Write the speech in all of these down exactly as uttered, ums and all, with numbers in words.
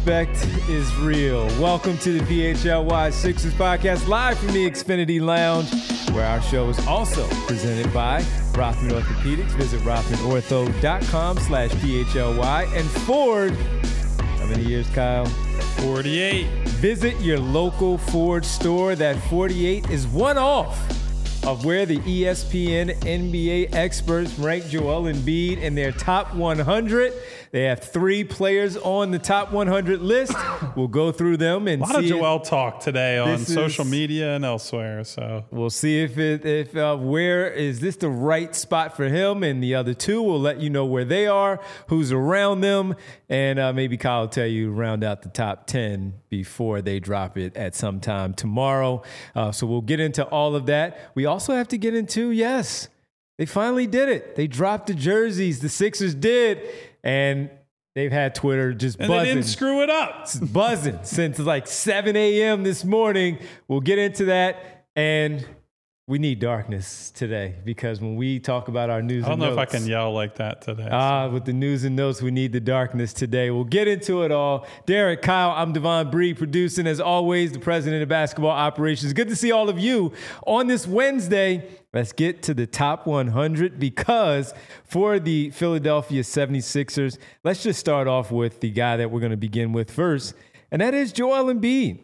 disrespect is real. Welcome to the P H L Y Sixers podcast, live from the Xfinity Lounge, where our show is also presented by Rothman Orthopedics. Visit rothmanortho.com slash PHLY. And Ford, how many years, Kyle? forty-eight. Visit your local Ford store. That forty-eight is one off of where the E S P N N B A experts rank Joel Embiid in their top one hundred. They have three players on the top one hundred list. We'll go through them and see. A lot of Joel talk today on social is, media and elsewhere. So we'll see if it, if uh, where is this the right spot for him, and the other two will let you know where they are, who's around them, and uh, maybe Kyle will tell you round out the top ten before they drop it at some time tomorrow. Uh, so we'll get into all of that. We also have to get into yes, they finally did it. They dropped the jerseys. The Sixers did. And they've had Twitter just and buzzing. They didn't screw it up. buzzing since like seven a.m. this morning. We'll get into that. And we need darkness today because when we talk about our news and notes. I don't know if I can yell like that today. Ah, so. With the news and notes, we need the darkness today. We'll get into it all. Derek, Kyle, I'm Devon Bree, producing as always, the president of basketball operations. Good to see all of you on this Wednesday. Let's get to the top one hundred because for the Philadelphia seventy-sixers, let's just start off with the guy that we're going to begin with first, and that is Joel Embiid.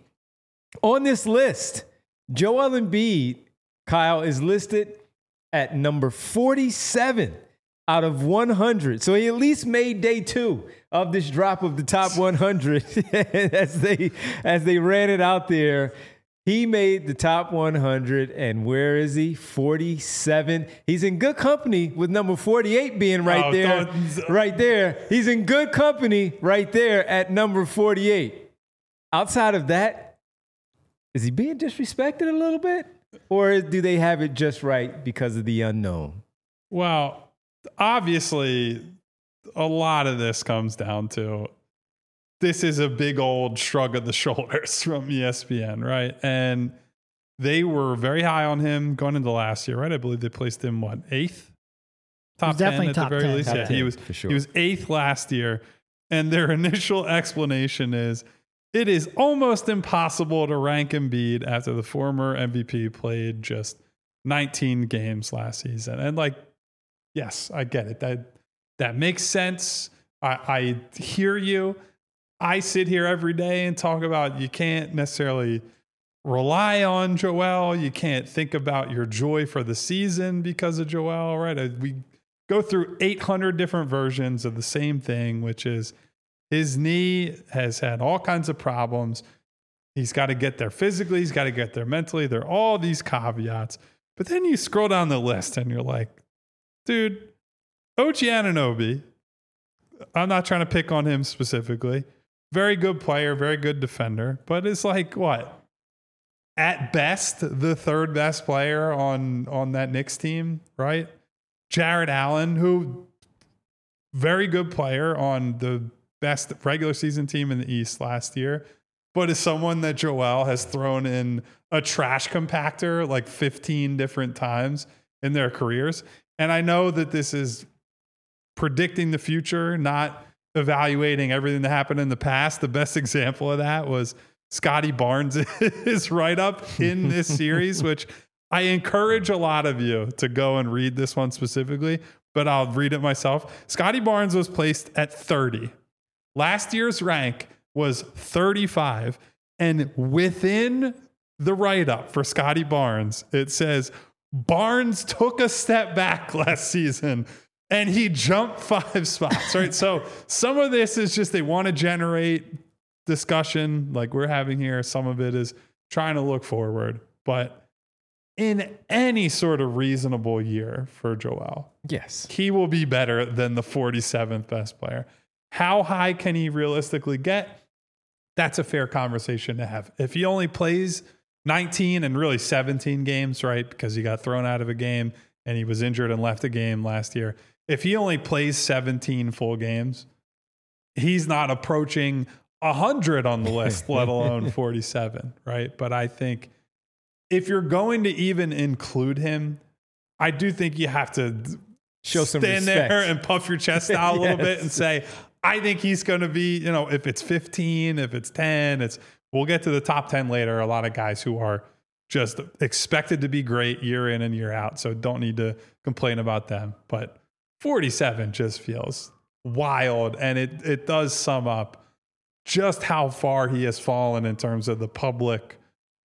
On this list, Joel Embiid, Kyle, is listed at number forty-seven out of one hundred. So he at least made day two of this drop of the top one hundred as they as they ran it out there. He made the top one hundred, and where is he? forty-seven. He's in good company with number forty-eight being right oh, there. Don't. Right there. He's in good company right there at number forty-eight. Outside of that, is he being disrespected a little bit? Or do they have it just right because of the unknown? Well, obviously, a lot of this comes down to this is a big old shrug of the shoulders from E S P N, right? And they were very high on him going into last year, right? I believe they placed him, what, eighth? Top ten at the very least. Top yeah, ten, he was, for sure. He was eighth last year. And their initial explanation is, it is almost impossible to rank Embiid after the former M V P played just nineteen games last season. And like, yes, I get it. That that makes sense. I, I hear you. I sit here every day and talk about you can't necessarily rely on Joel. You can't think about your joy for the season because of Joel, right? We go through eight hundred different versions of the same thing, which is his knee has had all kinds of problems. He's got to get there physically. He's got to get there mentally. There are all these caveats. But then you scroll down the list and you're like, dude, O G Anunoby, I'm not trying to pick on him specifically. Very good player, very good defender. But it's like, what? At best, the third best player on, on that Knicks team, right? Jarrett Allen, who very good player on the best regular season team in the East last year, but is someone that Joel has thrown in a trash compactor like fifteen different times in their careers. And I know that this is predicting the future, not evaluating everything that happened in the past. The best example of that was Scotty Barnes is right up in this series, which I encourage a lot of you to go and read this one specifically, but I'll read it myself. Scotty Barnes was placed at thirty. Last year's rank was thirty-five. And within the write-up for Scotty Barnes, it says, Barnes took a step back last season and he jumped five spots, right? So some of this is just they want to generate discussion like we're having here. Some of it is trying to look forward. But in any sort of reasonable year for Joel, yes, he will be better than the forty-seventh best player. How high can he realistically get? That's a fair conversation to have. If he only plays nineteen and really seventeen games, right, because he got thrown out of a game and he was injured and left a game last year. If he only plays seventeen full games, he's not approaching one hundred on the list, let alone forty-seven, right? But I think if you're going to even include him, I do think you have to show some stand respect there and puff your chest out a little yes. bit and say, I think he's going to be, you know, if it's fifteen, if it's ten, it's, we'll get to the top ten later. A lot of guys who are just expected to be great year in and year out. So don't need to complain about them. But forty-seven just feels wild. And it, it does sum up just how far he has fallen in terms of the public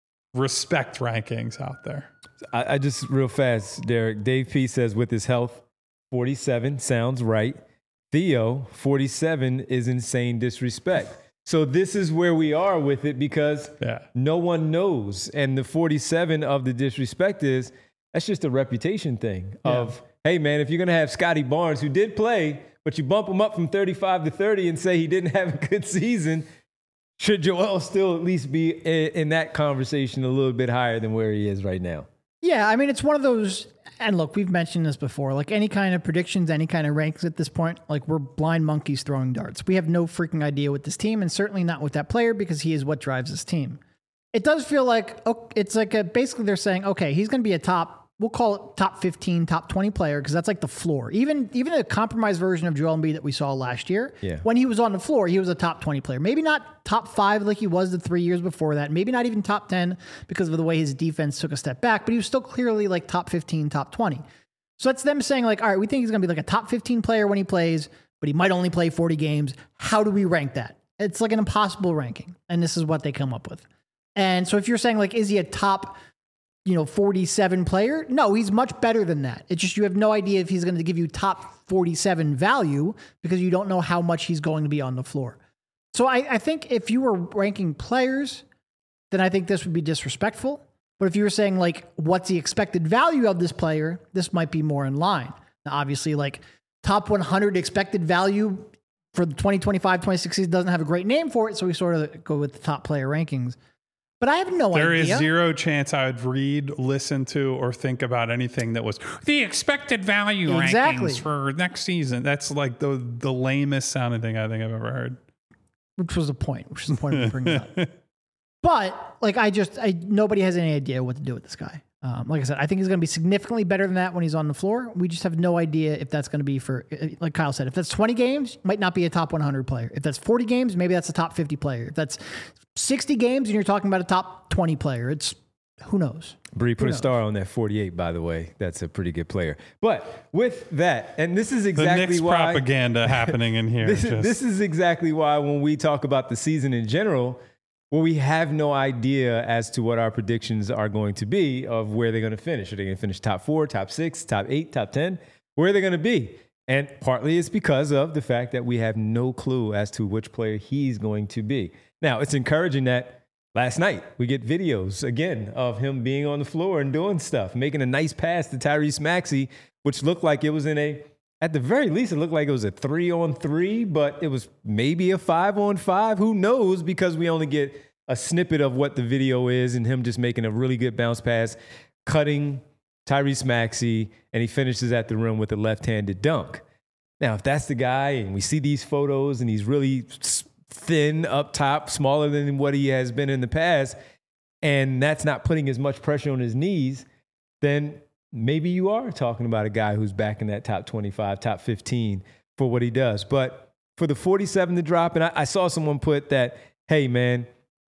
respect rankings out there. I, I just real fast, Derek. Dave P says with his health, forty-seven sounds right. Theo, forty-seven is insane disrespect. So this is where we are with it because yeah. no one knows. And the forty-seven of the disrespect is, that's just a reputation thing yeah. of, hey, man, if you're going to have Scotty Barnes, who did play, but you bump him up from thirty-five to thirty and say he didn't have a good season, should Joel still at least be in, in that conversation a little bit higher than where he is right now? Yeah, I mean, it's one of those, and look, we've mentioned this before, like any kind of predictions, any kind of rankings at this point, like we're blind monkeys throwing darts. We have no freaking idea with this team, and certainly not with that player because he is what drives this team. It does feel like, oh, it's like a, basically they're saying, okay, he's going to be a top, we'll call it top fifteen, top twenty player because that's like the floor. Even even a compromised version of Joel Embiid that we saw last year, yeah. when he was on the floor, he was a top twenty player. Maybe not top five like he was the three years before that. Maybe not even top ten because of the way his defense took a step back, but he was still clearly like top fifteen, top twenty. So that's them saying like, all right, we think he's going to be like a top fifteen player when he plays, but he might only play forty games. How do we rank that? It's like an impossible ranking. And this is what they come up with. And so if you're saying like, is he a top you know, forty-seven player? No, he's much better than that. It's just you have no idea if he's going to give you top forty-seven value because you don't know how much he's going to be on the floor. So I, I think if you were ranking players, then I think this would be disrespectful. But if you were saying like, what's the expected value of this player, this might be more in line. Now, obviously, like top one hundred expected value for the twenty twenty-five twenty-six season doesn't have a great name for it. So we sort of go with the top player rankings. But I have no there idea. There is zero chance I would read, listen to, or think about anything that was the expected value exactly. rankings for next season. That's like the the lamest sounding thing I think I've ever heard. Which was the point. Which is the point of bringing it up. But like, I just, I nobody has any idea what to do with this guy. Um, like I said, I think he's going to be significantly better than that when he's on the floor. We just have no idea if that's going to be for, like Kyle said, if that's twenty games, might not be a top one hundred player. If that's forty games, maybe that's a top fifty player. If that's sixty games and you're talking about a top twenty player, it's who knows? Bree, put a star on that forty-eight, by the way. That's a pretty good player. But with that, and this is exactly the Knicks why propaganda happening in here. This, just. this is exactly why when we talk about the season in general, well, we have no idea as to what our predictions are going to be of where they're going to finish. Are they going to finish top four, top six, top eight, top ten? Where are they going to be? And partly it's because of the fact that we have no clue as to which player he's going to be. Now, it's encouraging that last night we get videos, again, of him being on the floor and doing stuff, making a nice pass to Tyrese Maxey, which looked like it was in a, at the very least, it looked like it was a three on three, but it was maybe a five on five. Who knows? Because we only get a snippet of what the video is and him just making a really good bounce pass, cutting Tyrese Maxey, and he finishes at the rim with a left-handed dunk. Now, if that's the guy, and we see these photos, and he's really thin up top, smaller than what he has been in the past, and that's not putting as much pressure on his knees, then maybe you are talking about a guy who's back in that top twenty-five, top fifteen for what he does. But for the forty-seven to drop, and I, I saw someone put that, hey, man,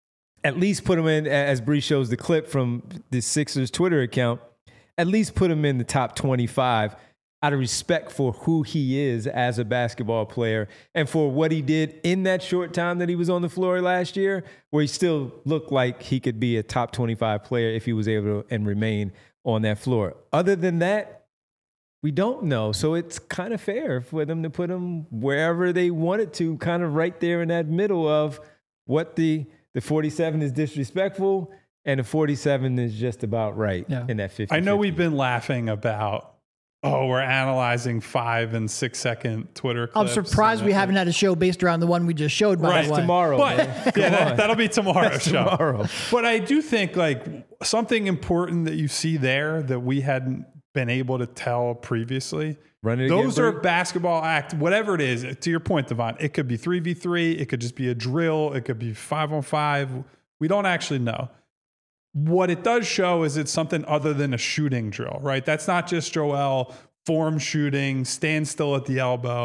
at least put him in, as Bree shows the clip from the Sixers Twitter account, at least put him in the top twenty-five out of respect for who he is as a basketball player and for what he did in that short time that he was on the floor last year, where he still looked like he could be a top twenty-five player if he was able to and remain on that floor. Other than that, we don't know. So it's kind of fair for them to put him wherever they wanted to, kind of right there in that middle of what the, the forty-seven is disrespectful and the forty-seven is just about right yeah. in that fifty. I know we've been laughing about, oh, we're analyzing five and six second Twitter clips. I'm surprised we haven't had a show based around the one we just showed. By right, the way. tomorrow. But yeah, that, that'll be tomorrow's show. Tomorrow. But I do think like something important that you see there that we hadn't been able to tell previously. Run it Those again, are Bree? basketball act, whatever it is. To your point, Devon, it could be three v three. It could just be a drill. It could be five on five. We don't actually know. What it does show is it's something other than a shooting drill, right? That's not just Joel form shooting, stand still at the elbow.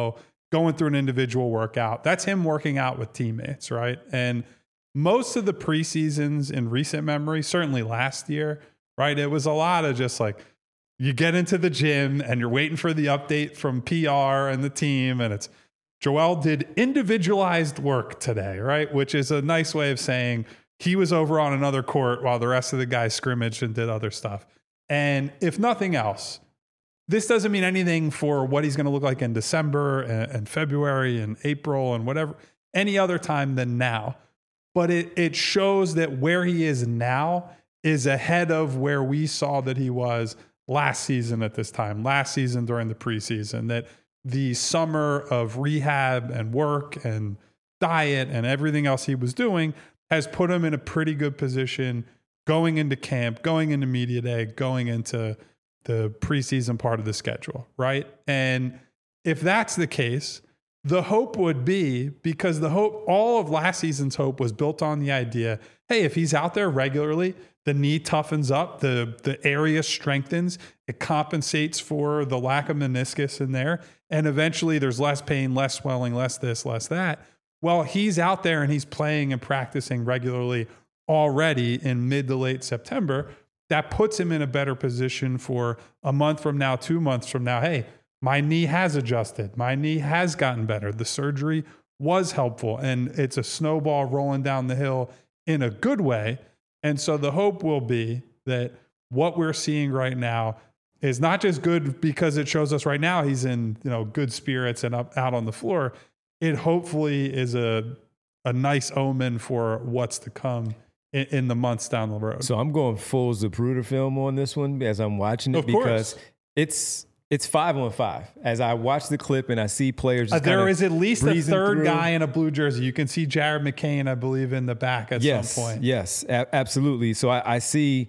going through an individual workout. That's him working out with teammates, right? And most of the preseasons in recent memory, certainly last year, right? It was a lot of just like, you get into the gym and you're waiting for the update from P R and the team. And it's, Joel did individualized work today, right? Which is a nice way of saying he was over on another court while the rest of the guys scrimmaged and did other stuff. And if nothing else, this doesn't mean anything for what he's going to look like in December and, and February and April and whatever, any other time than now. But it, it shows that where he is now is ahead of where we saw that he was last season at this time, last season during the preseason, that the summer of rehab and work and diet and everything else he was doing has put him in a pretty good position going into camp, going into media day, going into the preseason part of the schedule, right? And if that's the case, the hope would be, because the hope, all of last season's hope was built on the idea, hey, if he's out there regularly, the knee toughens up, the, the area strengthens, it compensates for the lack of meniscus in there, and eventually there's less pain, less swelling, less this, less that. Well, he's out there and he's playing and practicing regularly already in mid to late September. That puts him in a better position for a month from now, two months from now. Hey, my knee has adjusted. My knee has gotten better. The surgery was helpful, and it's a snowball rolling down the hill in a good way. And so the hope will be that what we're seeing right now is not just good because it shows us right now he's in, you know, good spirits and up out on the floor. It hopefully is a a nice omen for what's to come in, in the months down the road. So I'm going full Zapruder film on this one as I'm watching it, of because course. it's it's five on five. As I watch the clip and I see players, uh, there is at least a third through. guy in a blue jersey. You can see Jared McCain, I believe, in the back at yes, some point. Yes, a- absolutely. So I, I see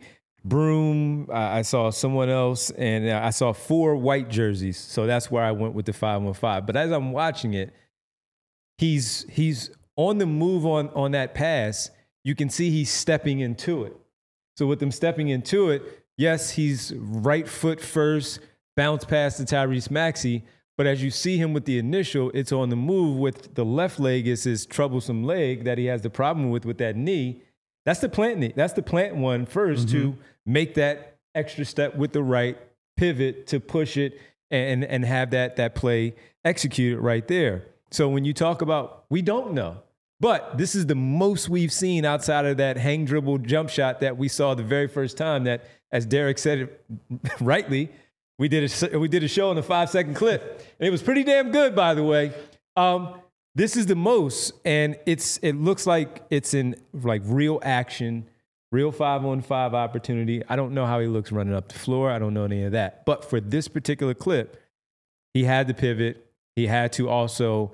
Broom. I, I saw someone else, and I saw four white jerseys. So that's where I went with the five on five. But as I'm watching it, he's he's on the move on on that pass. You can see he's stepping into it. So with him stepping into it, yes, he's right foot first, bounce pass to Tyrese Maxey. But as you see him with the initial, it's on the move with the left leg is his troublesome leg that he has the problem with with that knee. That's the plant knee. That's the plant one first mm-hmm. to make that extra step with the right, pivot to push it and, and have that, that play executed right there. So when you talk about, we don't know. But this is the most we've seen outside of that hang dribble jump shot that we saw the very first time that, as Derek said it rightly, we did a, we did a show in a five-second clip. And it was pretty damn good, by the way. Um, this is the most, and it's it looks like it's in like real action, real five-on-five opportunity. I don't know how he looks running up the floor. I don't know any of that. But for this particular clip, he had to pivot. He had to also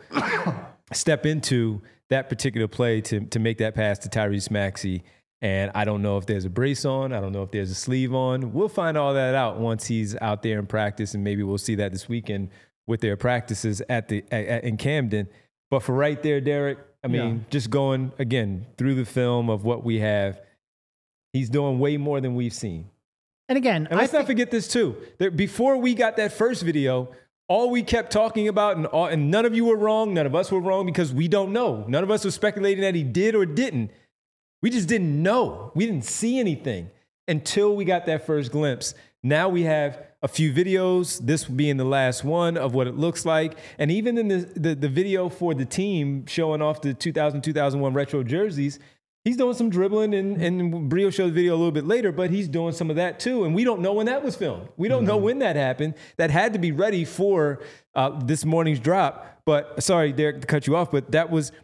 step into that particular play to to make that pass to Tyrese Maxey. And I don't know if there's a brace on. I don't know if there's a sleeve on. We'll find all that out once he's out there in practice, and maybe we'll see that this weekend with their practices at the at, in Camden. But for right there, Derek, I mean, yeah. just going, again, through the film of what we have, he's doing way more than we've seen. And again, and let's I not forget this too. That before we got that first video, all we kept talking about, and, all, and none of you were wrong, none of us were wrong, because we don't know. None of us were speculating that he did or didn't. We just didn't know. We didn't see anything until we got that first glimpse. Now we have a few videos, this being the last one, of what it looks like. And even in the, the, the video for the team showing off the two thousand, two thousand one retro jerseys, he's doing some dribbling, and, and Brio showed the video a little bit later, but he's doing some of that too. And we don't know when that was filmed. We don't mm-hmm. know when that happened. That had to be ready for uh, this morning's drop. But sorry, Derek, to cut you off, but that was...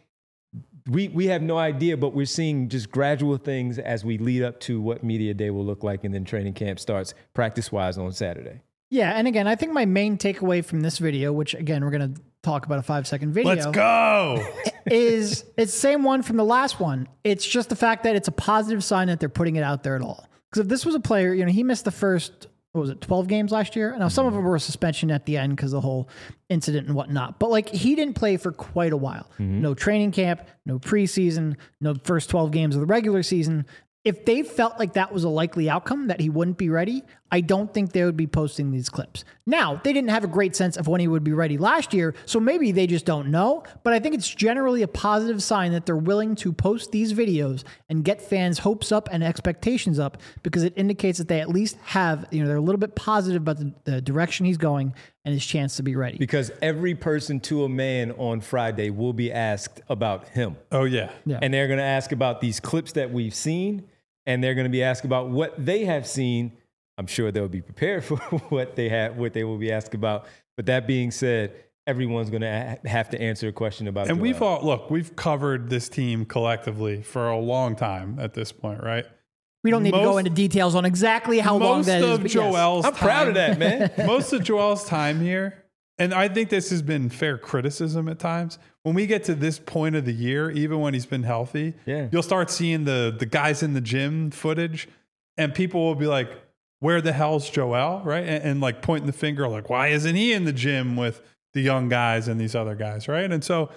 We we have no idea, but we're seeing just gradual things as we lead up to what Media Day will look like, and then training camp starts practice-wise on Saturday. Yeah, and again, I think my main takeaway from this video, which again, we're going to talk about a five-second video. Let's go! is it's the same one from the last one. It's just the fact that it's a positive sign that they're putting it out there at all. Because if this was a player, you know, he missed the first... what was it, twelve games last year? Now, some of them were a suspension at the end because of the whole incident and whatnot. But, like, he didn't play for quite a while. Mm-hmm. No training camp, no preseason, no first twelve games of the regular season. If they felt like that was a likely outcome, that he wouldn't be ready, I don't think they would be posting these clips. Now, they didn't have a great sense of when he would be ready last year, so maybe they just don't know, but I think it's generally a positive sign that they're willing to post these videos and get fans' hopes up and expectations up, because it indicates that they at least have, you know, they're a little bit positive about the, the direction he's going and his chance to be ready. Because every person to a man on Friday will be asked about him. Oh, yeah. Yeah. And they're going to ask about these clips that we've seen, and they're going to be asked about what they have seen. I'm sure they'll be prepared for what they have, what they will be asked about. But that being said, everyone's going to have to answer a question about. And Joel. we've all look, we've covered this team collectively for a long time at this point, right? We don't need most, to go into details on exactly how long that is. Most of Joel's I'm time, proud of that, man. Most of Joel's time here, and I think this has been fair criticism at times. When we get to this point of the year, even when he's been healthy, yeah. you'll start seeing the the guys in the gym footage, and people will be like, where the hell's Joel, right? And, and like pointing the finger, like, why isn't he in the gym with the young guys and these other guys, right? And so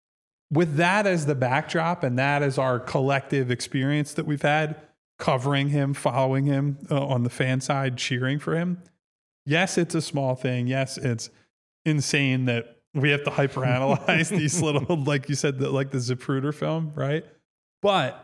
with that as the backdrop and that as our collective experience that we've had covering him, following him uh, on the fan side, cheering for him, yes, it's a small thing. Yes, it's insane that we have to hyperanalyze these little, like you said, the, like the Zapruder film, right? But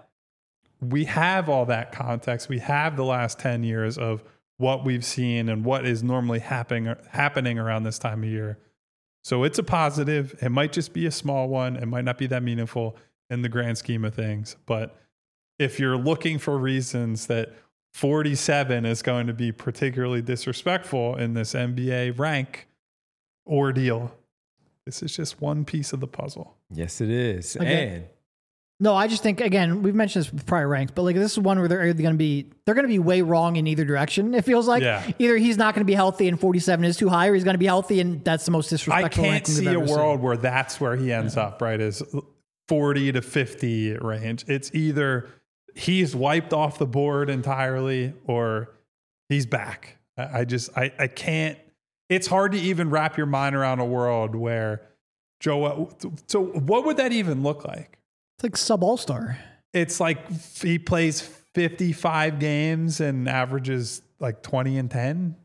we have all that context. We have the last ten years of what we've seen and what is normally happening happening around this time of year. So it's a positive. It might just be a small one. It might not be that meaningful in the grand scheme of things. But if you're looking for reasons that forty-seven is going to be particularly disrespectful in this N B A rank ordeal, this is just one piece of the puzzle. Yes, it is. Okay. And No, I just think, again, we've mentioned this with prior ranks, but like this is one where they're either going to be, they're going to be way wrong in either direction. It feels like Yeah. either he's not going to be healthy and forty-seven is too high, or he's going to be healthy and that's the most I disrespectful. can't ranking we've see a ever world seen. where that's where he ends Yeah. up, right? Is forty to fifty range. It's either he's wiped off the board entirely or he's back. I, I just, I, I can't, it's hard to even wrap your mind around a world where Joel, so what would that even look like? It's like sub all-star. It's like he plays fifty-five games and averages like twenty and ten.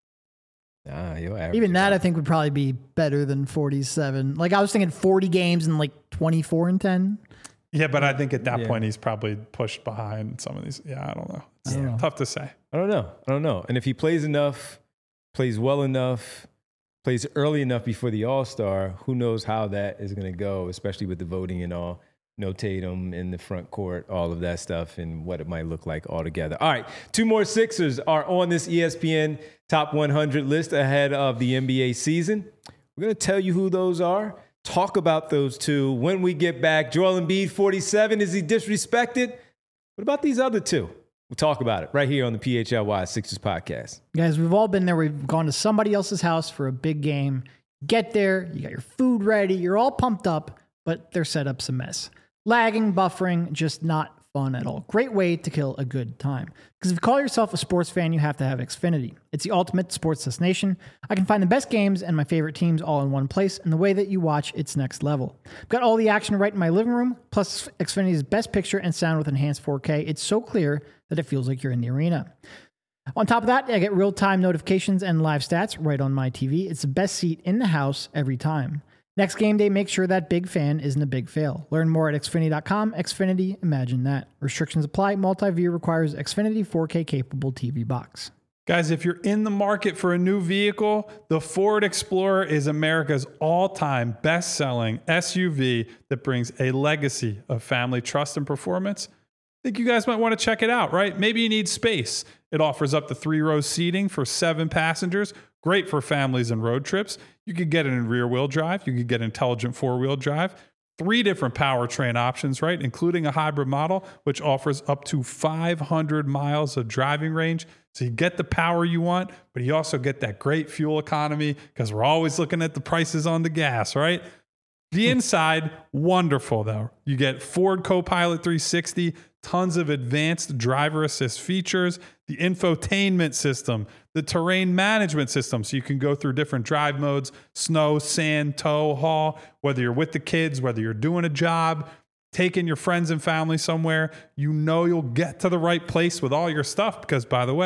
Nah, you'll average Even that, about- I think, would probably be better than forty-seven. Like I was thinking forty games and like twenty-four and ten. Yeah, but I think at that Yeah. point he's probably pushed behind some of these. Yeah, I don't know. It's I don't know. tough to say. I don't know. I don't know. And if he plays enough, plays well enough, plays early enough before the All-Star, who knows how that is going to go, especially with the voting and all. No Tatum in the front court, all of that stuff, and what it might look like altogether. All right, two more Sixers are on this E S P N Top one hundred list ahead of the N B A season. We're going to tell you who those are, talk about those two when we get back. Joel Embiid, forty-seven, is he disrespected? What about these other two? We'll talk about it right here on the P H L Y Sixers podcast. Guys, we've all been there. We've gone to somebody else's house for a big game. Get there, you got your food ready, you're all pumped up, but their setup's a mess. Lagging, buffering, just not fun at all. Great way to kill a good time. Because if you call yourself a sports fan, you have to have Xfinity. It's the ultimate sports destination. I can find the best games and my favorite teams all in one place, and the way that you watch, it's next level. I've got all the action right in my living room, plus Xfinity's best picture and sound with enhanced four K. It's so clear that it feels like you're in the arena. On top of that, I get real-time notifications and live stats right on my T V. It's the best seat in the house every time. Next game day, make sure that big fan isn't a big fail. Learn more at Xfinity dot com. Xfinity, imagine that. Restrictions apply. Multi-view requires Xfinity four K capable T V box. Guys, if you're in the market for a new vehicle, the Ford Explorer is America's all-time best-selling S U V that brings a legacy of family trust and performance. I think you guys might want to check it out, right? Maybe you need space. It offers up to three rows seating for seven passengers. Great for families and road trips. You could get it in rear-wheel drive. You could get intelligent four-wheel drive. Three different powertrain options, right? Including a hybrid model, which offers up to five hundred miles of driving range. So you get the power you want, but you also get that great fuel economy because we're always looking at the prices on the gas, right? The inside, wonderful though. You get Ford Copilot three sixty, tons of advanced driver assist features, the infotainment system, the terrain management system, so you can go through different drive modes, snow, sand, tow, haul, whether you're with the kids, whether you're doing a job, taking your friends and family somewhere, you know you'll get to the right place with all your stuff because, by the way,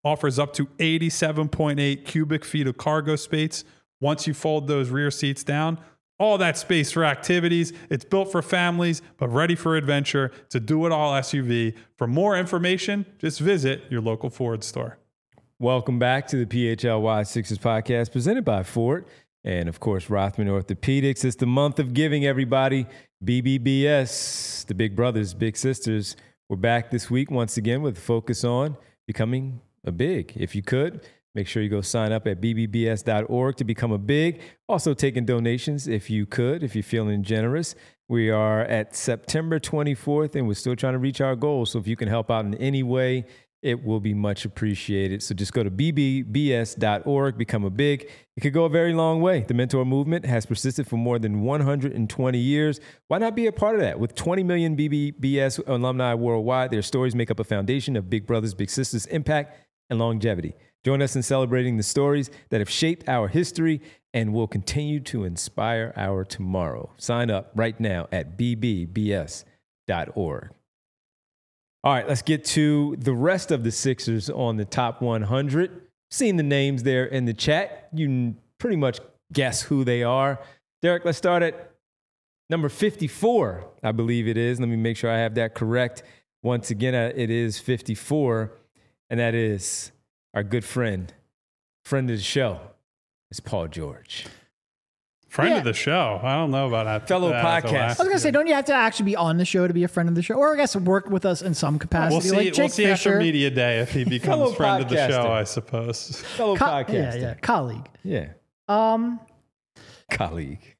offers up to eighty-seven point eight cubic feet of cargo space. Once you fold those rear seats down, all that space for activities. It's built for families, but ready for adventure. It's a do-it-all S U V. For more information, just visit your local Ford store. Welcome back to the P H L Y Sixers podcast presented by Ford and, of course, Rothman Orthopedics. It's the month of giving, everybody. B B B S, the big brothers, big sisters. We're back this week once again with a focus on becoming a big. If you could, make sure you go sign up at b b b s dot org to become a big. Also taking donations if you could, if you're feeling generous. We are at September twenty-fourth, and we're still trying to reach our goals. So if you can help out in any way, it will be much appreciated. So just go to b b b s dot org, become a big. It could go a very long way. The mentor movement has persisted for more than one hundred twenty years. Why not be a part of that? With twenty million B B B S alumni worldwide, their stories make up a foundation of big brothers, big sisters, impact, and longevity. Join us in celebrating the stories that have shaped our history and will continue to inspire our tomorrow. Sign up right now at b b b s dot org. All right, let's get to the rest of the Sixers on the top one hundred. Seen the names there in the chat. You can pretty much guess who they are. Derek, let's start at number fifty-four, I believe it is. Let me make sure I have that correct. Once again, it is fifty-four, and that is our good friend, friend of the show, it's Paul George. Friend Yeah. of the show. I don't know about that. Fellow that podcast. I was going to say, don't you have to actually be on the show to be a friend of the show? Or I guess work with us in some capacity. We'll see. like Jake we'll see Fisher. after media day if he Fellow becomes friend of the podcaster. show. I suppose. Fellow Co- podcaster. Yeah, yeah, colleague. Yeah, Um, colleague.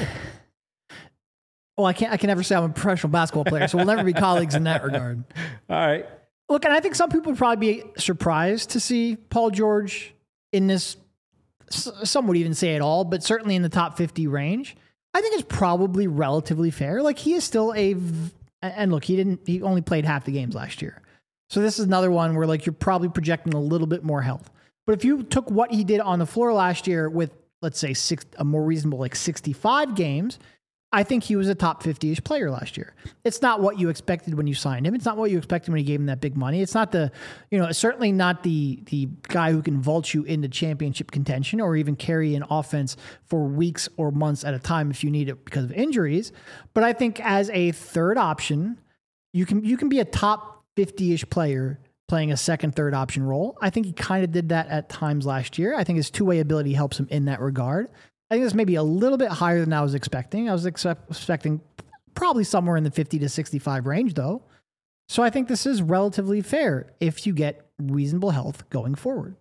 well, I can't. I can never say I'm a professional basketball player, so we'll never be colleagues in that regard. All right. Look, and I think some people would probably be surprised to see Paul George in this. Some would even say at all, but certainly in the top fifty range. I think it's probably relatively fair. Like he is still a, and look, he didn't. He only played half the games last year, so this is another one where like you're probably projecting a little bit more health. But if you took what he did on the floor last year with, let's say, six, a more reasonable like sixty-five games, I think he was a top fifty-ish player last year. It's not what you expected when you signed him. It's not what you expected when you gave him that big money. It's not the, you know, it's certainly not the the guy who can vault you into championship contention or even carry an offense for weeks or months at a time if you need it because of injuries. But I think as a third option, you can you can be a top fifty-ish player playing a second, third option role. I think he kind of did that at times last year. I think his two-way ability helps him in that regard. I think this may be a little bit higher than I was expecting. I was expect, expecting probably somewhere in the fifty to sixty-five range, though. So I think this is relatively fair if you get reasonable health going forward.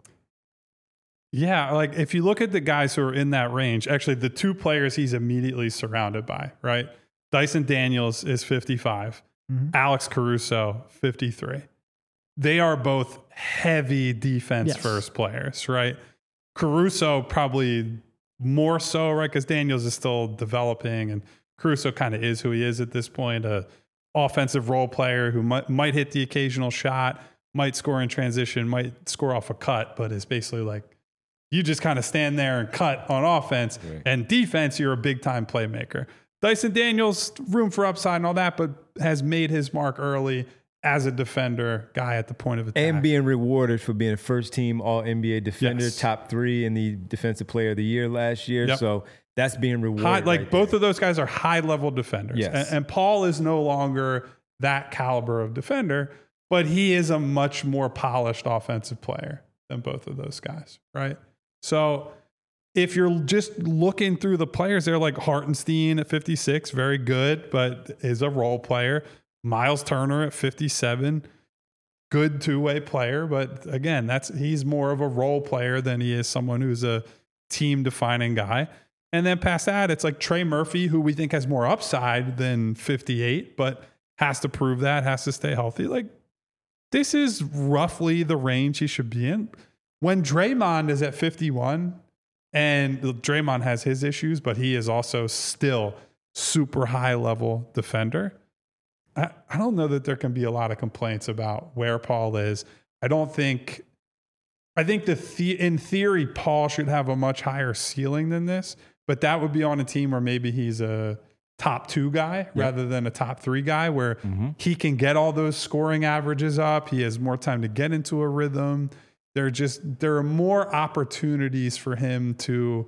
Yeah, like if you look at the guys who are in that range, actually the two players he's immediately surrounded by, right? Dyson Daniels is fifty-five, Mm-hmm. Alex Caruso, fifty-three. They are both heavy defense Yes. first players, right? Caruso probably more so, right? Because Daniels is still developing and Caruso kind of is who he is at this point, a offensive role player who might, might hit the occasional shot, might score in transition, might score off a cut, but is basically like, you just kind of stand there and cut on offense. Right. And defense, you're a big time playmaker. Dyson Daniels, room for upside and all that, but has made his mark early as a defender, guy at the point of attack. And being rewarded for being a first team all N B A defender, Yes. top three in the defensive player of the year last year. Yep. So that's being rewarded. High, like right both there. of those guys are high level defenders. Yes. And, and Paul is no longer that caliber of defender, but he is a much more polished offensive player than both of those guys, right? So if you're just looking through the players, they're like Hartenstein at fifty-six, very good, but is a role player. Miles Turner at fifty-seven, good two-way player, but again, that's he's more of a role player than he is someone who's a team-defining guy. And then past that, it's like Trey Murphy, who we think has more upside than fifty-eight, but has to prove that, has to stay healthy. Like, this is roughly the range he should be in. When Draymond is at fifty-one, and Draymond has his issues, but he is also still super high-level defender, I, I don't know that there can be a lot of complaints about where Paul is. I don't think, I think the, the in theory, Paul should have a much higher ceiling than this, but that would be on a team where maybe he's a top two guy Yep. rather than a top three guy where Mhm. he can get all those scoring averages up. He has more time to get into a rhythm. There just there are more opportunities for him to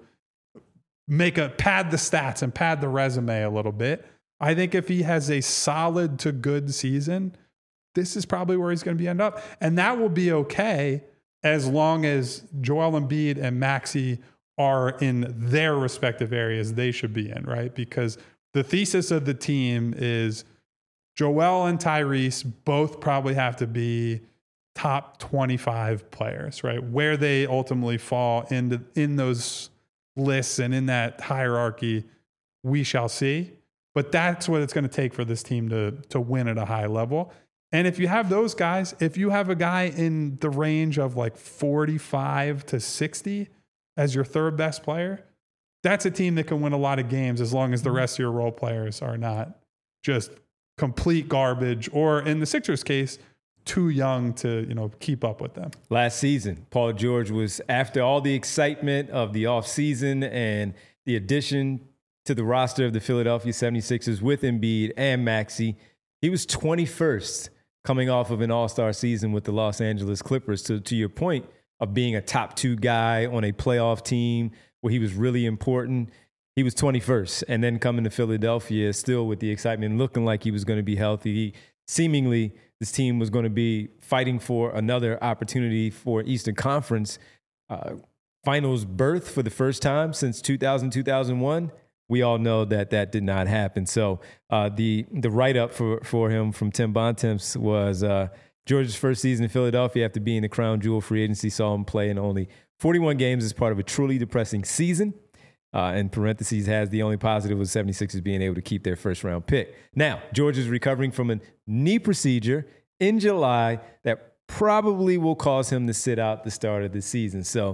make a pad the stats and pad the resume a little bit. I think if he has a solid to good season, this is probably where he's going to be end up. And that will be okay as long as Joel Embiid and Maxey are in their respective areas they should be in, right? Because the thesis of the team is Joel and Tyrese both probably have to be top twenty-five players, right? Where they ultimately fall into in those lists and in that hierarchy, we shall see. But that's what it's going to take for this team to to win at a high level. And if you have those guys, if you have a guy in the range of like forty-five to sixty as your third best player, that's a team that can win a lot of games as long as the rest of your role players are not just complete garbage, or in the Sixers case, too young to, you know, keep up with them. Last season, Paul George was, after all the excitement of the offseason and the addition to the roster of the Philadelphia seventy-sixers with Embiid and Maxey, he was twenty-first coming off of an all-star season with the Los Angeles Clippers. So to your point of being a top two guy on a playoff team where he was really important, he was twenty-first. And then coming to Philadelphia, still with the excitement, looking like he was going to be healthy. He, seemingly, this team was going to be fighting for another opportunity for Eastern Conference uh, Finals berth for the first time since two thousand, two thousand one. We all know that that did not happen. So uh, the the write-up for, for him from Tim Bontemps was uh, George's first season in Philadelphia after being the crown jewel free agency saw him play in only forty-one games as part of a truly depressing season. Uh, in parentheses, has the only positive was seventy-sixers being able to keep their first-round pick. Now, George is recovering from a knee procedure in July that probably will cause him to sit out the start of the season. So,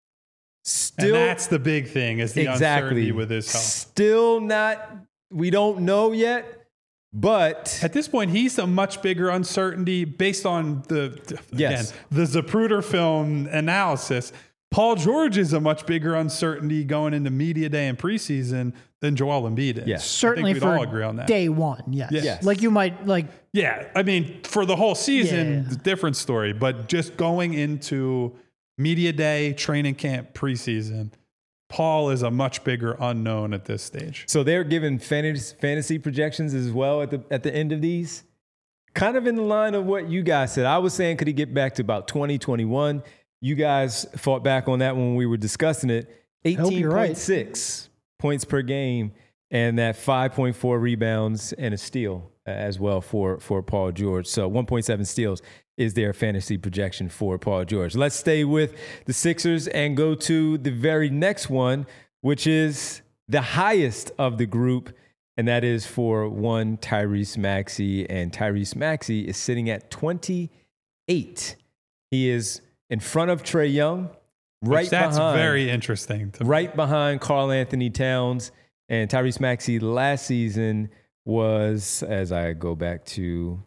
still, and that's the big thing, is the exactly, uncertainty with his health. Still not, we don't know yet, but at this point, he's a much bigger uncertainty based on the, yes. again, the Zapruder film analysis. Paul George is a much bigger uncertainty going into media day and preseason than Joel Embiid is. Yes. Certainly I think we'd for all agree on that. day one, yes. Yes. Like you might, like... Yeah, I mean, for the whole season, Yeah. different story. But just going into media day, training camp, preseason, Paul is a much bigger unknown at this stage. So they're giving fantasy, fantasy projections as well at the at the end of these? Kind of in the line of what you guys said. I was saying, could he get back to about twenty, twenty-one? You guys fought back on that when we were discussing it. eighteen point six right. points per game and that five point four rebounds and a steal as well for, for Paul George. So one point seven steals is their fantasy projection for Paul George. Let's stay with the Sixers and go to the very next one, which is the highest of the group, and that is for one Tyrese Maxey. And Tyrese Maxey is sitting at twenty-eight. He is in front of Trae Young, right Which that's behind, very interesting. To right behind Karl Anthony Towns. And Tyrese Maxey last season was, as I go back to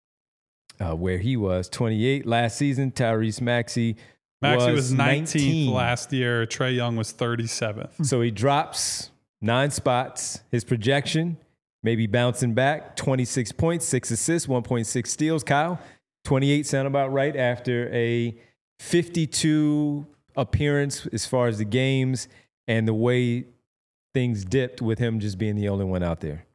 uh, where he was, twenty-eight last season. Tyrese Maxey, Maxey was, was nineteenth nineteen last year. Trae Young was thirty-seventh. So he drops nine spots. His projection, maybe bouncing back, twenty-six points, six assists, one point six steals. Kyle, twenty-eight sound about right after a fifty-two appearance as far as the games and the way things dipped with him just being the only one out there.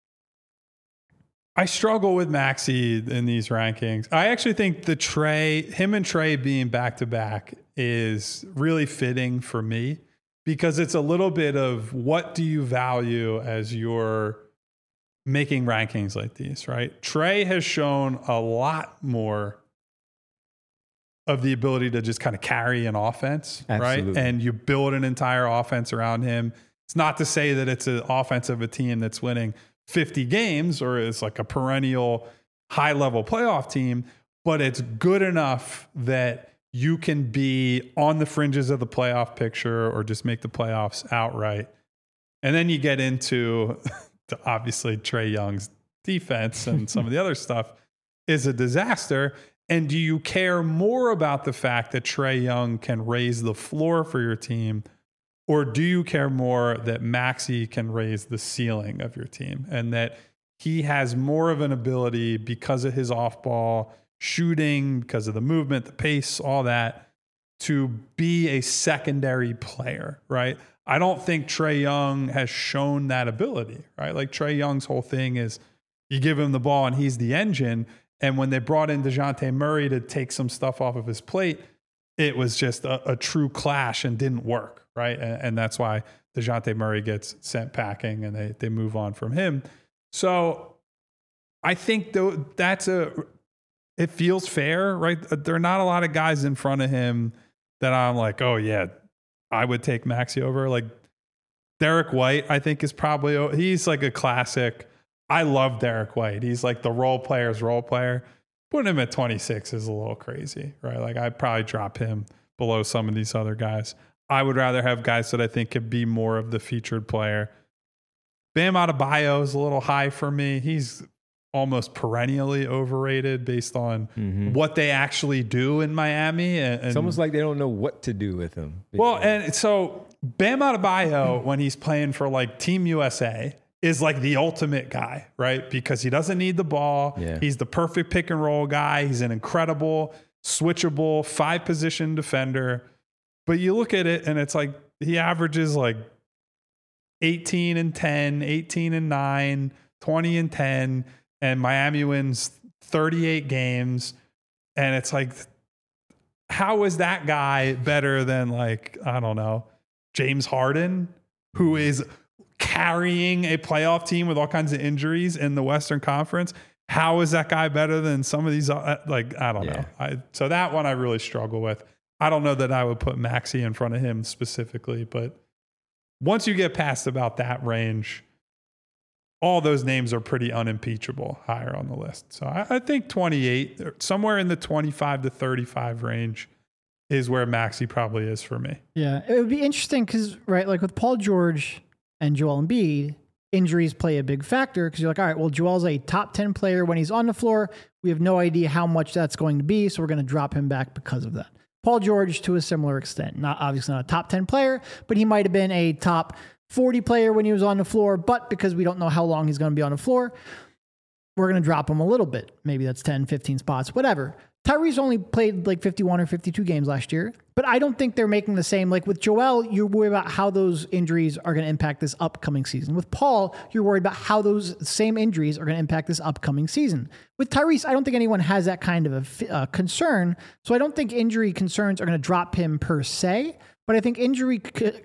I struggle with Maxey in these rankings. I actually think the Trae, him and Trae being back to back is really fitting for me because it's a little bit of what do you value as you're making rankings like these, right? Trae has shown a lot more of the ability to just kind of carry an offense, Absolutely. right? And you build an entire offense around him. It's not to say that it's an offense of a team that's winning fifty games or is like a perennial high level playoff team, but it's good enough that you can be on the fringes of the playoff picture or just make the playoffs outright. And then you get into obviously Trae Young's defense and some of the other stuff is a disaster. And do you care more about the fact that Trae Young can raise the floor for your team, or do you care more that Maxey can raise the ceiling of your team and that he has more of an ability because of his off-ball shooting, because of the movement, the pace, all that, to be a secondary player, right? I don't think Trae Young has shown that ability, right? Like Trae Young's whole thing is you give him the ball and he's the engine. And when they brought in DeJounte Murray to take some stuff off of his plate, it was just a, a true clash and didn't work, right? And, and that's why DeJounte Murray gets sent packing and they, they move on from him. So I think though that's a, it feels fair, right? There are not a lot of guys in front of him that I'm like, oh yeah, I would take Maxey over. Like Derek White, I think is probably, he's like a classic. I love Derek White. He's like the role player's role player. Putting him at twenty-six is a little crazy, right? Like I'd probably drop him below some of these other guys. I would rather have guys that I think could be more of the featured player. Bam Adebayo is a little high for me. He's almost perennially overrated based on mm-hmm. what they actually do in Miami. And, and it's almost like they don't know what to do with him. Well, and so Bam Adebayo, when he's playing for like Team U S A, is like the ultimate guy, right? Because he doesn't need the ball. Yeah. He's the perfect pick and roll guy. He's an incredible, switchable, five position defender. But you look at it and it's like he averages like eighteen and ten, eighteen and nine, twenty and ten, and Miami wins thirty-eight games. And it's like, how is that guy better than like, I don't know, James Harden, who is carrying a playoff team with all kinds of injuries in the Western Conference? How is that guy better than some of these? Uh, like, I don't yeah. know. I, so that one I really struggle with. I don't know that I would put Maxey in front of him specifically, but once you get past about that range, all those names are pretty unimpeachable higher on the list. So I, I think twenty-eight, somewhere in the twenty-five to thirty-five range is where Maxey probably is for me. Yeah, it would be interesting because, right, like with Paul George and Joel Embiid, injuries play a big factor because you're like, all right, well, Joel's a top ten player when he's on the floor. We have no idea how much that's going to be, so we're going to drop him back because of that. Paul George, to a similar extent, not obviously not a top ten player, but he might have been a top forty player when he was on the floor, but because we don't know how long he's going to be on the floor, we're going to drop him a little bit. Maybe that's ten, fifteen spots, whatever. Tyrese only played like fifty-one or fifty-two games last year, but I don't think they're making the same. Like with Joel, you're worried about how those injuries are going to impact this upcoming season. With Paul, you're worried about how those same injuries are going to impact this upcoming season. With Tyrese, I don't think anyone has that kind of a uh, concern. So I don't think injury concerns are going to drop him per se, but I think injury,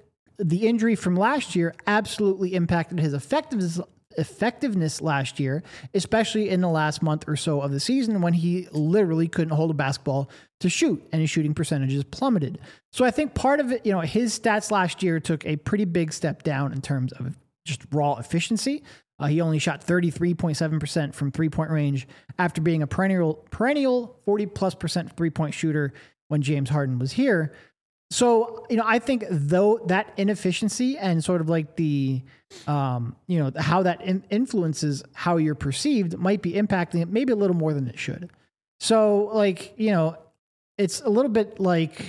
the injury from last year absolutely impacted his effectiveness effectiveness last year, especially in the last month or so of the season when he literally couldn't hold a basketball to shoot and his shooting percentages plummeted. So I think part of it, you know, his stats last year took a pretty big step down in terms of just raw efficiency. Uh, he only shot thirty-three point seven percent from three-point range after being a perennial perennial forty plus percent three-point shooter when James Harden was here. So, you know, I think though that inefficiency and sort of like the, um, you know, how that in- influences how you're perceived might be impacting it maybe a little more than it should. So like, you know, it's a little bit like,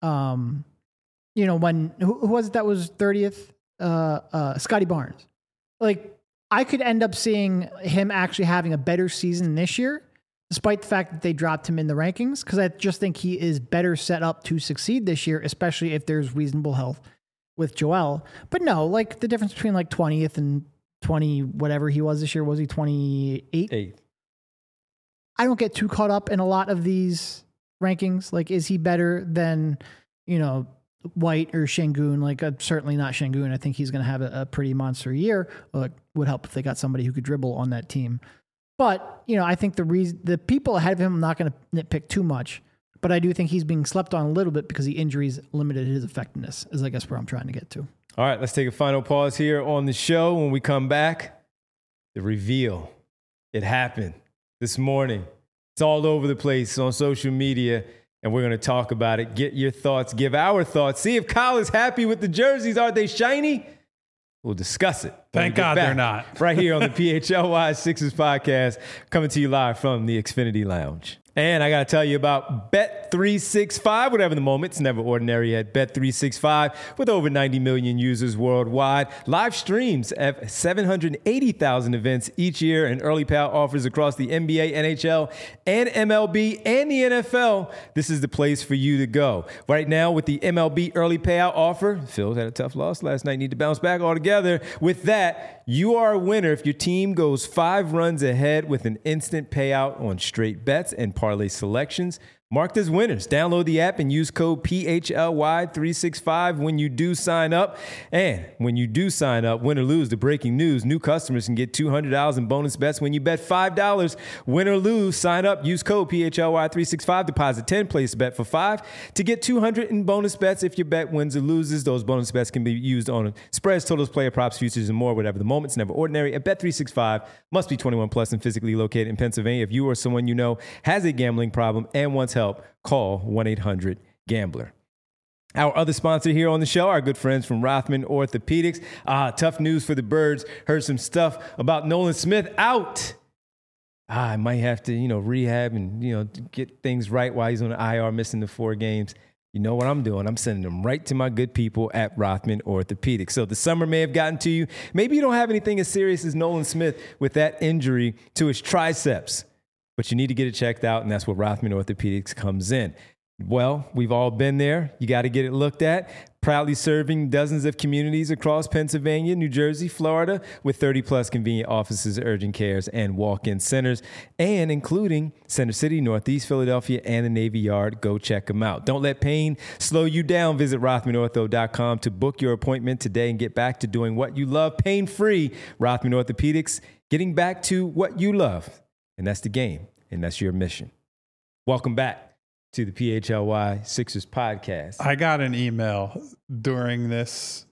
um, you know, when, who, who was it that was thirtieth? Uh, uh, Scotty Barnes. Like I could end up seeing him actually having a better season this year, despite the fact that they dropped him in the rankings, because I just think he is better set up to succeed this year, especially if there's reasonable health with Joel. But no, like the difference between like twentieth and twenty, whatever he was this year, was he twenty-eight? Eight. I don't get too caught up in a lot of these rankings. Like, is he better than, you know, White or Şengün? Like, uh, certainly not Şengün. I think he's going to have a, a pretty monster year. Well, it would help if they got somebody who could dribble on that team. But, you know, I think the reason the people ahead of him, I'm not going to nitpick too much, but I do think he's being slept on a little bit because the injuries limited his effectiveness, is I guess where I'm trying to get to. All right, let's take a final pause here on the show. When we come back, the reveal. It happened this morning. It's all over the place on social media, and we're going to talk about it. Get your thoughts, give our thoughts. See if Kyle is happy with the jerseys. Are they shiny? We'll discuss it. Thank God they're not. Right here on the P H L Y Sixers podcast, coming to you live from the Xfinity Lounge. And I got to tell you about Bet three sixty-five, whatever the moment. It's never ordinary at Bet three sixty-five with over ninety million users worldwide. Live streams at seven hundred eighty thousand events each year and early payout offers across the N B A, N H L, and M L B and the N F L. This is the place for you to go. Right now with the M L B early payout offer, Phil had a tough loss last night, need to bounce back altogether. With that, you are a winner if your team goes five runs ahead with an instant payout on straight bets and parlay selections. Marked as winners. Download the app and use code P H L Y three sixty-five when you do sign up. And when you do sign up, win or lose, the breaking news, new customers can get two hundred dollars in bonus bets when you bet five dollars. Win or lose, sign up, use code P H L Y three sixty-five, deposit ten, place a bet for five to get two hundred in bonus bets if your bet wins or loses. Those bonus bets can be used on spreads, totals, player props, futures, and more, whatever the moment. It's never ordinary. At Bet three sixty-five, must be twenty-one plus and physically located in Pennsylvania. If you or someone you know has a gambling problem and wants help, call one eight hundred gambler. Our other sponsor here on the show, our good friends from Rothman Orthopedics. Ah, tough news for the Birds. Heard some stuff about Nolan Smith out. Ah, I might have to, you know, rehab and, you know, get things right while he's on the I R missing the four games. You know what I'm doing? I'm sending them right to my good people at Rothman Orthopedics. So the summer may have gotten to you. Maybe you don't have anything as serious as Nolan Smith with that injury to his triceps, but you need to get it checked out, and that's where Rothman Orthopedics comes in. Well, we've all been there. You got to get it looked at. Proudly serving dozens of communities across Pennsylvania, New Jersey, Florida, with thirty plus convenient offices, urgent cares, and walk-in centers, and including Center City, Northeast Philadelphia, and the Navy Yard. Go check them out. Don't let pain slow you down. Visit Rothman Ortho dot com to book your appointment today and get back to doing what you love pain-free. Rothman Orthopedics, getting back to what you love. And that's the game, and that's your mission. Welcome back to the P H L Y Sixers podcast. I got an email during this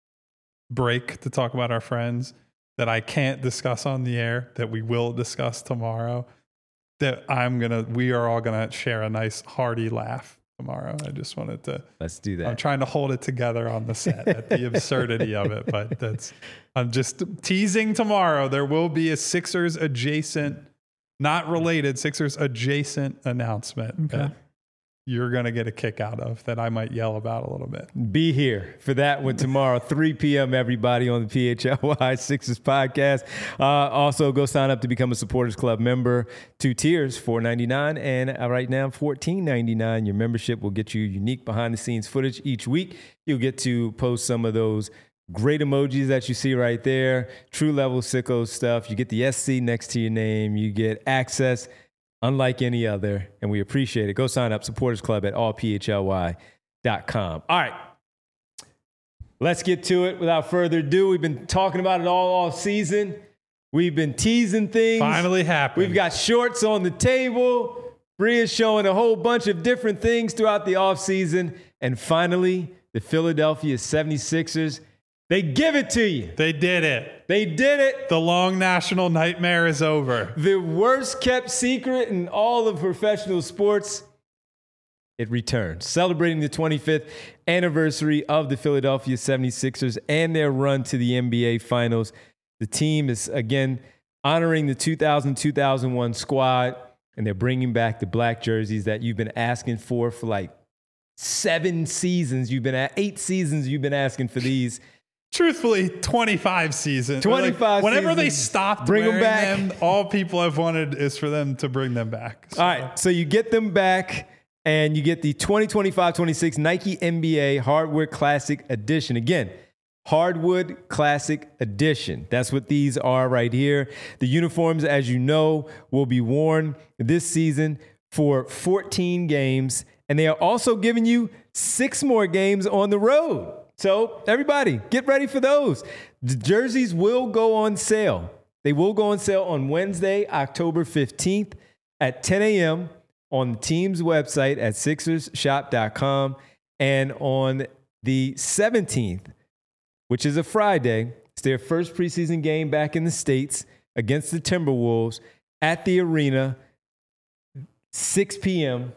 break to talk about our friends that I can't discuss on the air, that we will discuss tomorrow, that I'm going to, we are all going to share a nice hearty laugh tomorrow. I just wanted to. Let's do that. I'm trying to hold it together on the set at the absurdity of it, but that's, I'm just teasing tomorrow. There will be a Sixers adjacent, not related, Sixers adjacent announcement. Okay. That you're going to get a kick out of, that I might yell about a little bit. Be here for that one tomorrow, three p.m. everybody on the P H L Y Sixers podcast. Uh, also, go sign up to become a Supporters Club member. Two tiers, four ninety-nine, and uh, right now fourteen ninety-nine. Your membership will get you unique behind-the-scenes footage each week. You'll get to post some of those great emojis that you see right there, true level sicko stuff. You get the S C next to your name. You get access unlike any other, and we appreciate it. Go sign up, Supporters Club at all P H L Y dot com. All right, let's get to it. Without further ado, we've been talking about it all all season. We've been teasing things. Finally happened. We've got shorts on the table. Bria's showing a whole bunch of different things throughout the offseason. And finally, the Philadelphia seventy-sixers, they give it to you. They did it. They did it. The long national nightmare is over. The worst kept secret in all of professional sports, it returns. Celebrating the twenty-fifth anniversary of the Philadelphia seventy-sixers and their run to the N B A Finals. The team is, again, honoring the two thousand two thousand one squad, and they're bringing back the black jerseys that you've been asking for for like seven seasons. You've been at eight seasons you've been asking for these. Truthfully, twenty-five seasons. twenty-five like, whenever seasons. they stopped Bring them wearing back. them, all people have wanted is for them to bring them back. So. All right, so you get them back, and you get the twenty twenty-five twenty-six Nike N B A Hardwood Classic Edition. Again, Hardwood Classic Edition. That's what these are right here. The uniforms, as you know, will be worn this season for fourteen games, and they are also giving you six more games on the road. So everybody, get ready for those. The jerseys will go on sale. They will go on sale on Wednesday, October fifteenth at ten a.m. on the team's website at Sixers Shop dot com, and on the seventeenth, which is a Friday. It's their first preseason game back in the States against the Timberwolves at the arena, six p.m.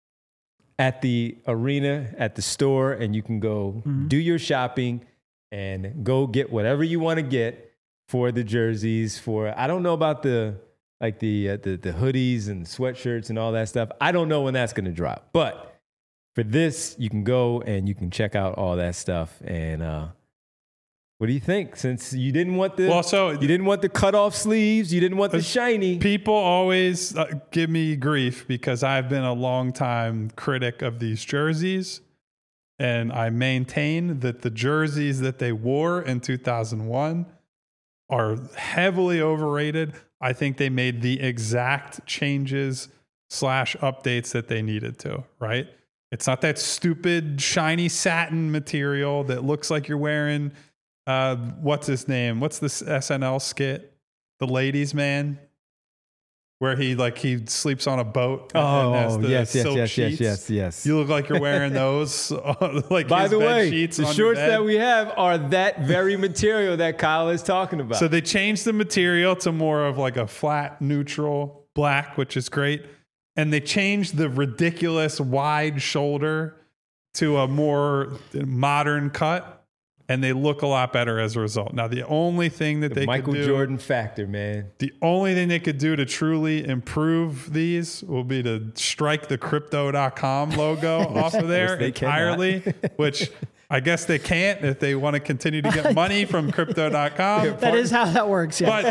at the arena, at the store, and you can go mm-hmm. do your shopping and go get whatever you want to get for the jerseys. For I don't know about the like the, uh, the the hoodies and sweatshirts and all that stuff. I don't know when that's going to drop, but for this, you can go and you can check out all that stuff. And uh, what do you think? Since you didn't want the Well, so- you didn't want the cut off sleeves, you didn't want the shiny. People always uh, give me grief because I've been a long time critic of these jerseys. And I maintain that the jerseys that they wore in two thousand one are heavily overrated. I think they made the exact changes slash updates that they needed to, right? It's not that stupid shiny satin material that looks like you're wearing, uh, what's his name? What's this S N L skit? The Ladies Man? Where he like he sleeps on a boat. Oh, and has the yes, yes, silk yes, yes, sheets. yes, yes. You look like you're wearing those. uh, like By his the bed way, sheets the on your shorts bed. that we have are that very material that Kyle is talking about. So they changed the material to more of like a flat, neutral black, which is great. And they changed the ridiculous wide shoulder to a more modern cut. And they look a lot better as a result. Now, the only thing that the they Michael could do, Jordan factor, man. the only thing they could do to truly improve these will be to strike the crypto dot com logo off of there Which they entirely, which I guess they can't if they want to continue to get money from crypto dot com. That is how that works. Yeah.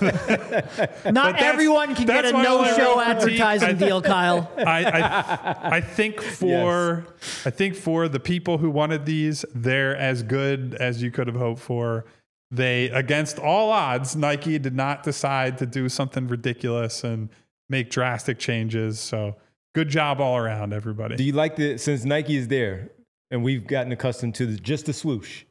But Not that's- everyone can get that's a my only no-show real critique. advertising I- deal, Kyle. I, I I think for I think for the people who wanted these, they're as good as you could have hoped for. They, against all odds, Nike did not decide to do something ridiculous and make drastic changes. So good job all around, everybody. Do you like the, since Nike is there and we've gotten accustomed to the, just the swoosh,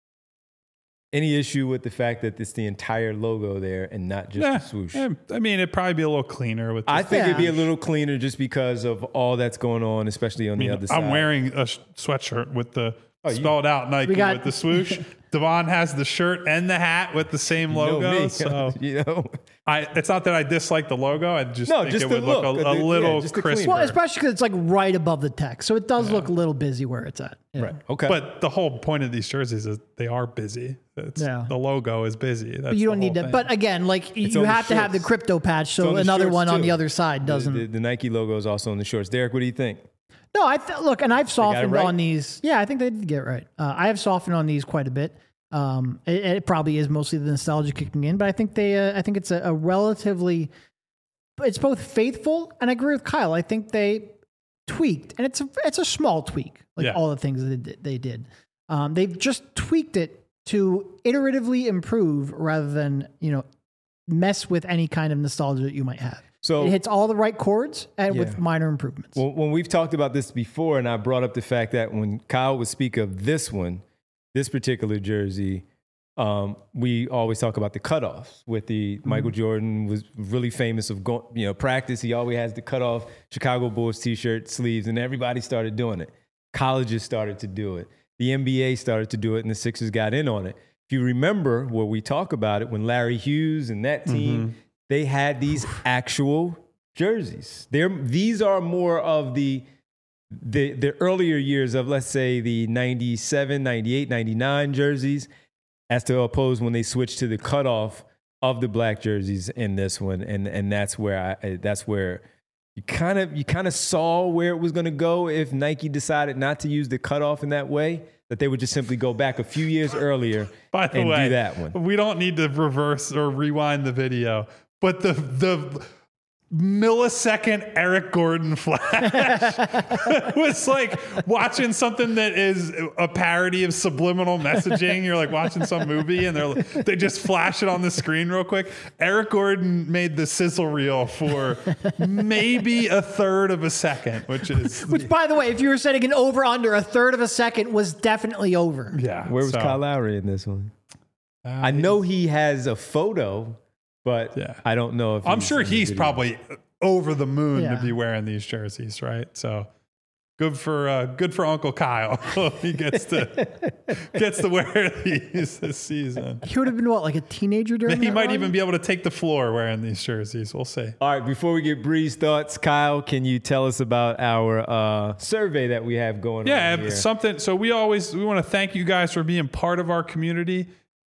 any issue with the fact that it's the entire logo there and not just Nah, the swoosh? eh, I mean, it'd probably be a little cleaner with this. I think it'd be a Yeah. little cleaner just because of all that's going on, especially on I mean, the other side. I'm wearing a sh- sweatshirt with the Oh, you- spelled out Nike We got- with the swoosh. Devon has the shirt and the hat with the same You know logo. me, So you know. I, it's not that I dislike the logo. I just No, think just it the would look, look, a, the- a yeah, little just the crisper. clean- Well, especially because it's like right above the text, so it does look a little busy where it's at. Yeah. Right. Okay. But the whole point of these jerseys is they are busy. It's, Yeah. The logo is busy. That's But you don't the need whole to. thing. But again, like you It's on the have to have the shorts. crypto patch, It's so on the another shorts, one on too. the other side doesn't. The, the, the Nike logo is also on the shorts. Derek, what do you think? No, I th- look, and I've softened right? on these. Yeah, I think they did get it right. Uh, I have softened on these quite a bit. Um, it, it probably is mostly the nostalgia kicking in, but I think they, uh, I think it's a, a relatively, it's both faithful, and I agree with Kyle. I think they tweaked, and it's a, it's a small tweak, like Yeah. all the things that they did. They did. Um, they've just tweaked it to iteratively improve rather than you know mess with any kind of nostalgia that you might have. So It hits all the right chords and Yeah. with minor improvements. Well, when we've talked about this before, and I brought up the fact that when Kyle would speak of this one, this particular jersey, um, we always talk about the cutoffs. With the Michael Jordan was really famous of going, you know, practice. He always has the cutoff Chicago Bulls T-shirt sleeves, and everybody started doing it. Colleges started to do it. The N B A started to do it, and the Sixers got in on it. If you remember where we talk about it, when Larry Hughes and that team, they had these actual jerseys. They're, these are more of the, the the earlier years of, let's say, the ninety-seven, ninety-eight, ninety-nine jerseys, as to oppose when they switched to the cutoff of the black jerseys in this one. And and that's where I that's where you kind of you kind of saw where it was going to go if Nike decided not to use the cutoff in that way, that they would just simply go back a few years earlier By the and way, do that one. we don't need to reverse or rewind the video, but the the millisecond Eric Gordon flash was like watching something that is a parody of subliminal messaging. You're like watching some movie and they're they just flash it on the screen real quick. Eric Gordon made the sizzle reel for maybe a third of a second, which is Which, by the way, if you were setting an over under, a third of a second was definitely over. yeah. Where was so, Kyle Lowry in this one? uh, I know he has a photo, but Yeah. I don't know if I'm he's sure in the he's video. probably over the moon Yeah. to be wearing these jerseys, right? So good for uh, good for Uncle Kyle. He gets to gets to wear these this season. He would have been what, like a teenager during He that might run? even be able to take the floor wearing these jerseys. We'll see. All right, before we get Bree's thoughts, Kyle, can you tell us about our uh, survey that we have going Yeah, on here? something. So we always we want to thank you guys for being part of our community.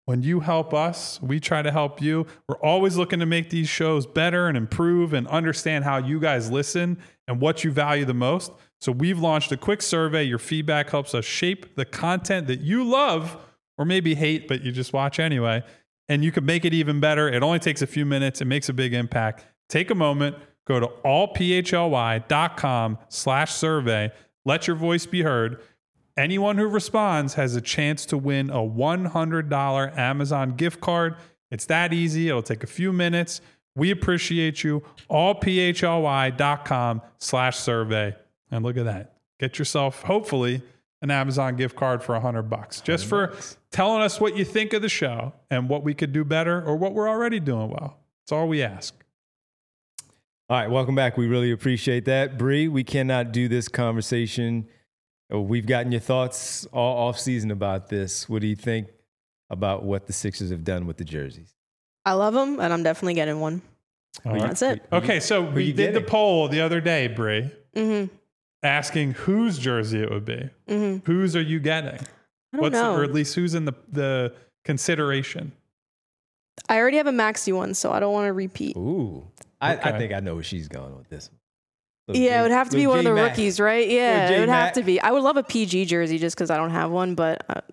When you help us, we try to help you. We're always looking to make these shows better and improve and understand how you guys listen and what you value the most. So we've launched a quick survey. Your feedback helps us shape the content that you love or maybe hate, but you just watch anyway. And you can make it even better. It only takes a few minutes. It makes a big impact. Take a moment, go to allphly.com slash survey. Let your voice be heard. Anyone who responds has a chance to win a one hundred dollars Amazon gift card. It's that easy. It'll take a few minutes. We appreciate you. allphly.com slash survey. And look at that. Get yourself, hopefully, an Amazon gift card for one hundred bucks. Just for telling us what you think of the show and what we could do better or what we're already doing well. That's all we ask. All right, welcome back. We really appreciate that. Bree, we cannot do this conversation. We've gotten your thoughts all off season about this. What do you think about what the Sixers have done with the jerseys? I love them, and I'm definitely getting one. All right. That's it. Okay, so we did getting? the poll the other day, Bree, Mm-hmm. asking whose jersey it would be. Mm-hmm. Whose are you getting? I don't What's know. The, or at least who's in the, the consideration? I already have a Maxi one, so I don't want to repeat. Ooh, I, Okay. I think I know where she's going with this one. Little Yeah, J- it would have to be little one of the J-Mac. rookies, right? Yeah, Little it would J-Mac. have to be. I would love a P G jersey just because I don't have one, but uh,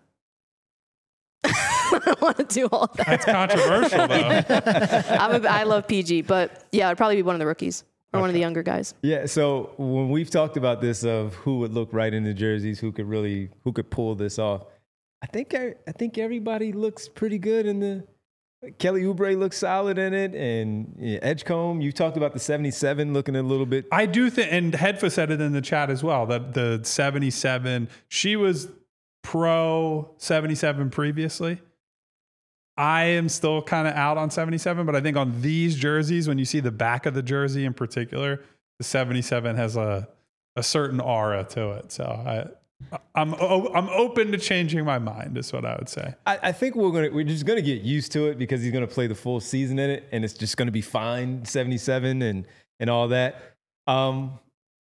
I don't want to do all that. That's controversial, though. I'm a, I love P G, but yeah, it'd probably be one of the rookies or one of the younger guys. Yeah, so when we've talked about this of who would look right in the jerseys, who could really, who could pull this off, I think I, I think everybody looks pretty good in the. Kelly Oubre looks solid in it, and yeah, Edgecombe. You talked about the seventy-seven looking a little bit. I do think, and Hedfa said it in the chat as well, that the seventy-seven, she was pro seventy-seven previously. I am still kind of out on seventy-seven, but I think on these jerseys, when you see the back of the jersey in particular, the seventy-seven has a, a certain aura to it. So I, I'm I'm open to changing my mind, is what I would say. I, I think we're gonna we're just gonna get used to it because he's gonna play the full season in it, and it's just gonna be fine, seventy-seven and and all that. Um,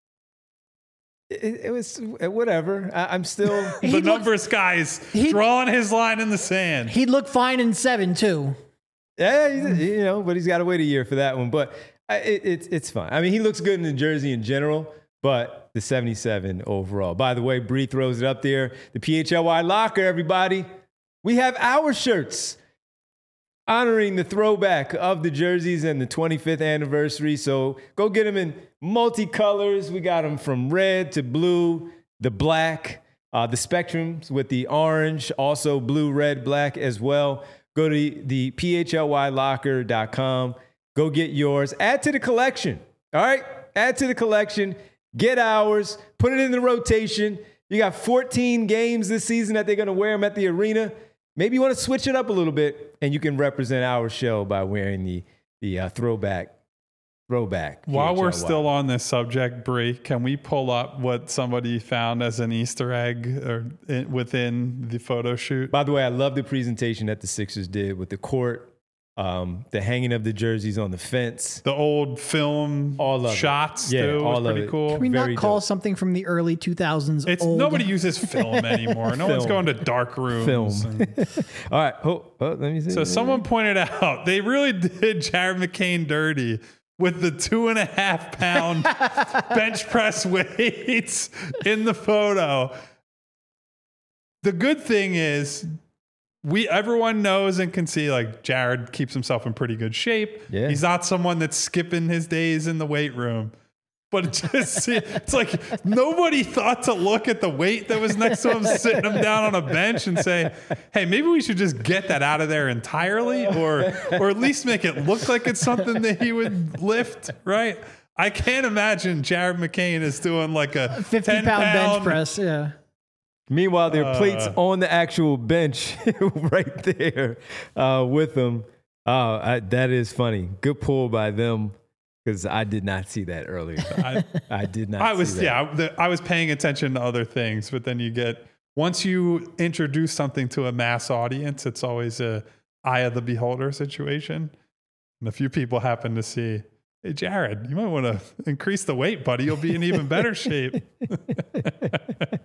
it, it was whatever. I, I'm still The He'd look- numbers guy's he'd- drawing his line in the sand. He'd look fine in seven too. yeah, he's, you know, but he's got to wait a year for that one. But I, it, it's it's fine. I mean, he looks good in the jersey in general, but the seventy-seven overall. By the way, Bree throws it up there. The P H L Y locker, everybody. We have our shirts honoring the throwback of the jerseys and the twenty-fifth anniversary. So go get them in multicolors. We got them from red to blue, the black, uh, the spectrums with the orange, also blue, red, black as well. Go to the P H L Y locker dot com. Go get yours. Add to the collection. All right? Add to the collection. Get ours. Put it in the rotation. You got fourteen games this season that they're going to wear them at the arena. Maybe you want to switch it up a little bit, and you can represent our show by wearing the the uh, throwback. Throwback. While we're P H L Y. still on this subject, Bree, can we pull up what somebody found as an Easter egg or in, within the photo shoot? By the way, I love the presentation that the Sixers did with the court, um, the hanging of the jerseys on the fence. The old film All of it. shots, Yeah, too, all was of pretty it. cool. Can we Very not call dope. something from the early two thousands It's old? nobody uses film anymore. No one's Film. going to dark rooms. Film. and- All right. Oh, oh, let me see. So someone pointed out they really did Jared McCain dirty with the two and a half pound bench press weights in the photo. The good thing is we everyone knows and can see like Jared keeps himself in pretty good shape. Yeah. He's not someone that's skipping his days in the weight room. But it just it's like nobody thought to look at the weight that was next to him, sitting him down on a bench and say, hey, maybe we should just get that out of there entirely, or or at least make it look like it's something that he would lift, right? I can't imagine Jared McCain is doing like a fifty ten pound bench pound press. Yeah. Meanwhile, there are Uh, plates on the actual bench right there uh, with them. Uh, I, that is funny. Good pull by them because I did not see that earlier. I, I did not I see was that. yeah, the, I was paying attention to other things, but then you get once you introduce something to a mass audience, it's always a eye of the beholder situation. And a few people happen to see, hey Jared, you might want to increase the weight, buddy. You'll be in even better shape.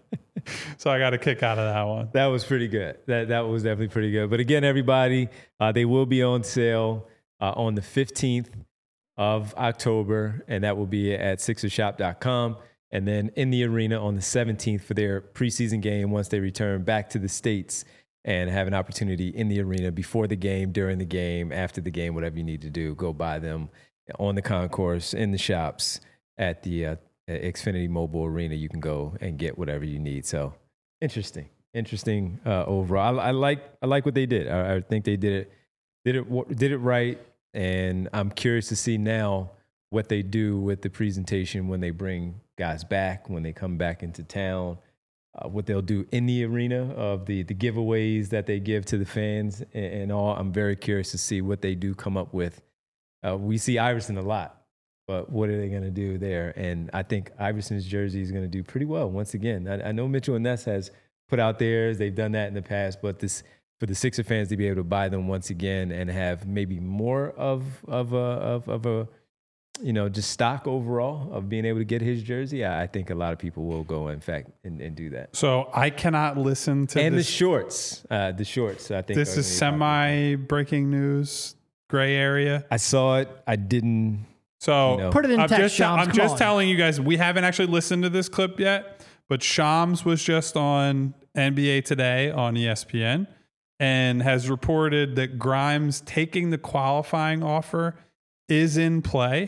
So I got a kick out of that one. That was pretty good. That that was definitely pretty good. But again, everybody, uh, they will be on sale uh, on the fifteenth of October, and that will be at Sixers Shop dot com. And then in the arena on the seventeenth for their preseason game once they return back to the States and have an opportunity in the arena before the game, during the game, after the game, whatever you need to do. Go buy them on the concourse, in the shops, at the uh, Xfinity Mobile Arena. You can go and get whatever you need. So interesting, interesting uh, overall. I, I like I like what they did. I, I think they did it did it did it right, and I'm curious to see now what they do with the presentation when they bring guys back, when they come back into town. Uh, what they'll do in the arena of the the giveaways that they give to the fans and, and all. I'm very curious to see what they do come up with. Uh, we see Iverson a lot, but what are they going to do there? And I think Iverson's jersey is going to do pretty well once again. I, I know Mitchell and Ness has put out theirs. They've done that in the past, but this for the Sixer fans to be able to buy them once again and have maybe more of of a, of, of a you know, just stock overall of being able to get his jersey, I, I think a lot of people will go, in fact, and, and do that. So I cannot listen to and this. the shorts, uh, the shorts. I think This is semi breaking news, gray area. I saw it. I didn't. So You know. Put it in I'm text, just, Shams, I'm come just on. telling you guys, we haven't actually listened to this clip yet, but Shams was just on N B A Today on E S P N and has reported that Grimes taking the qualifying offer is in play,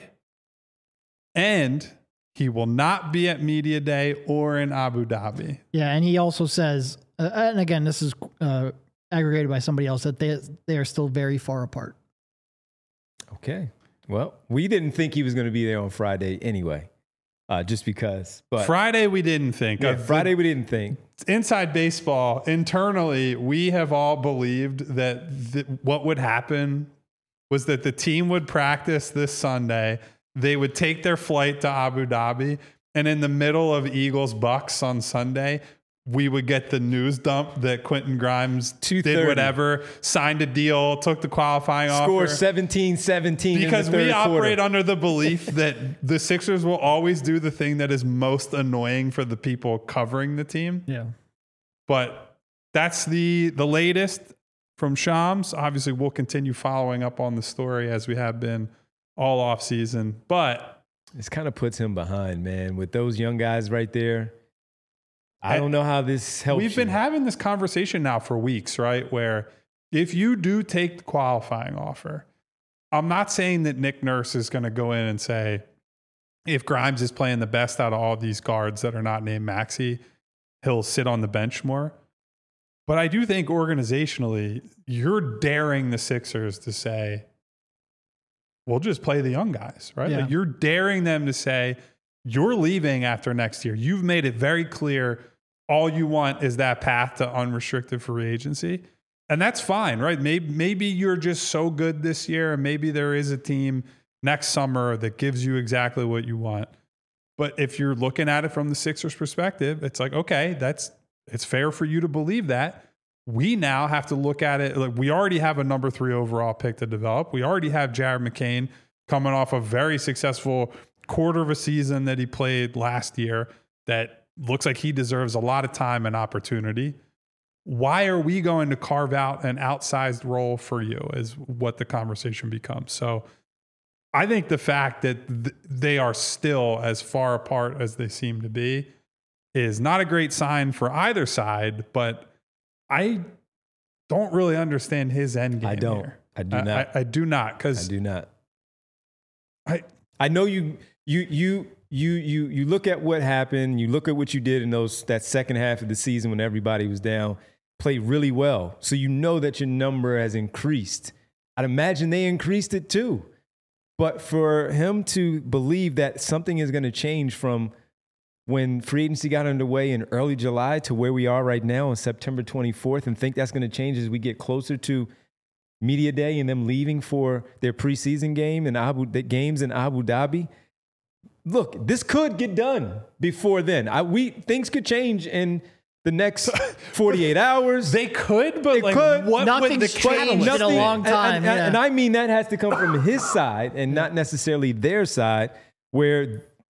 and he will not be at Media Day or in Abu Dhabi. Yeah, and he also says, uh, and again, this is uh, aggregated by somebody else, that they they are still very far apart. Okay. Well, we didn't think he was going to be there on Friday anyway, uh, just because. But Friday, we didn't think. yeah, of Friday we didn't think. Inside baseball, internally, we have all believed that th- what would happen was that the team would practice this Sunday. They would take their flight to Abu Dhabi, and in the middle of Eagles Bucks on Sunday, we would get the news dump that Quentin Grimes two did thirty whatever, signed a deal, took the qualifying Score offer. seventeen seventeen Because in the third we operate quarter. under the belief that the Sixers will always do the thing that is most annoying for the people covering the team. Yeah. But that's the the latest from Shams. Obviously, we'll continue following up on the story as we have been all off season. But This kind of puts him behind, man. With those young guys right there, I don't know how this helps. we've been you. having this conversation now for weeks, right? Where if you do take the qualifying offer, I'm not saying that Nick Nurse is going to go in and say, if Grimes is playing the best out of all these guards that are not named Maxey, he'll sit on the bench more. But I do think organizationally, you're daring the Sixers to say, we'll just play the young guys, right? Yeah. Like you're daring them to say, you're leaving after next year. You've made it very clear all you want is that path to unrestricted free agency. And that's fine, right? Maybe, maybe you're just so good this year, and maybe there is a team next summer that gives you exactly what you want. But if you're looking at it from the Sixers perspective, it's like, okay, that's it's fair for you to believe that. We now have to look at it. Like we already have a number three overall pick to develop. We already have Jared McCain coming off a very successful quarter of a season that he played last year that looks like he deserves a lot of time and opportunity. Why are we going to carve out an outsized role for you is what the conversation becomes. So I think the fact that th- they are still as far apart as they seem to be is not a great sign for either side, but I don't really understand his end game. I don't. Here. I do I, not. I, I do not because I do not. I I know you. You you you you you look at what happened. You look at what you did in those that second half of the season when everybody was down. Played really well, so you know that your number has increased. I'd imagine they increased it too. But for him to believe that something is going to change from when free agency got underway in early July to where we are right now on September twenty-fourth and think that's going to change as we get closer to Media Day and them leaving for their preseason game in Abu the games in Abu Dhabi. Look, this could get done before then. I, we things could change in the next forty-eight hours. they could, but It like could. what would the Nothing's changed catalyst in a be? long and- time. And, yeah. and I mean that has to come from his side and not necessarily their side, where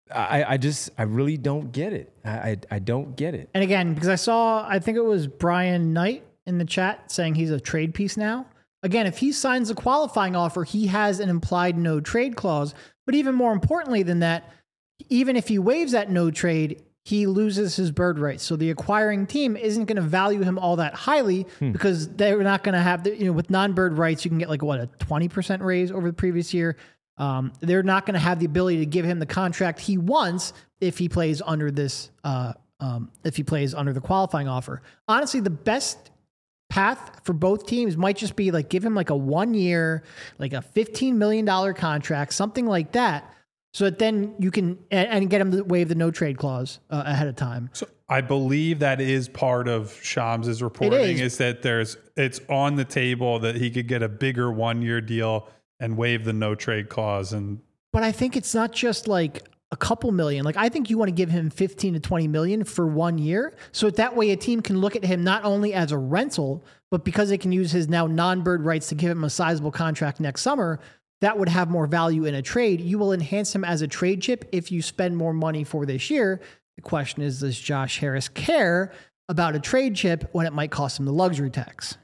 I, I just, I really don't get it. I, I, I don't get it. And again, because I saw, I think it was Brian Knight in the chat saying he's a trade piece now. Again, if he signs a qualifying offer, he has an implied no trade clause. But even more importantly than that, even if he waives that no trade, he loses his bird rights. So the acquiring team isn't going to value him all that highly hmm. because they're not going to have, the, you know, with non-bird rights, you can get like what, a twenty percent raise over the previous year. Um, they're not going to have the ability to give him the contract he wants if he plays under this, uh, um, if he plays under the qualifying offer. Honestly, the best path for both teams might just be like give him like a one year, like a fifteen million dollars contract, something like that. So that then you can, and, and get him to waive the no trade clause uh, ahead of time. So I believe that is part of Shams' reporting is. is that there's, it's on the table that he could get a bigger one year deal and waive the no trade clause. And but I think it's not just like a couple million. Like I think you want to give him fifteen to twenty million for one year. So that way a team can look at him not only as a rental, but because they can use his now non-bird rights to give him a sizable contract next summer, that would have more value in a trade. You will enhance him as a trade chip if you spend more money for this year. The question is, does Josh Harris care about a trade chip when it might cost him the luxury tax?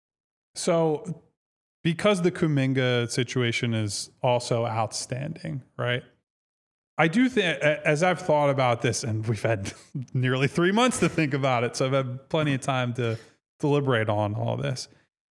So because the Kuminga situation is also outstanding, right? I do think, as I've thought about this, and we've had nearly three months to think about it, so I've had plenty of time to deliberate on all this.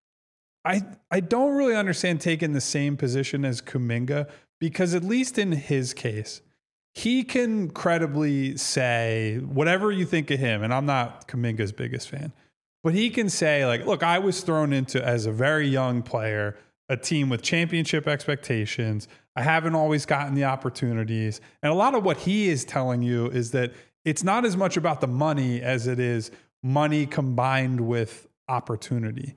I I don't really understand taking the same position as Kuminga, because at least in his case, he can credibly say whatever you think of him, and I'm not Kuminga's biggest fan, but he can say, like, look, I was thrown into, as a very young player, a team with championship expectations. I haven't always gotten the opportunities. And a lot of what he is telling you is that it's not as much about the money as it is money combined with opportunity.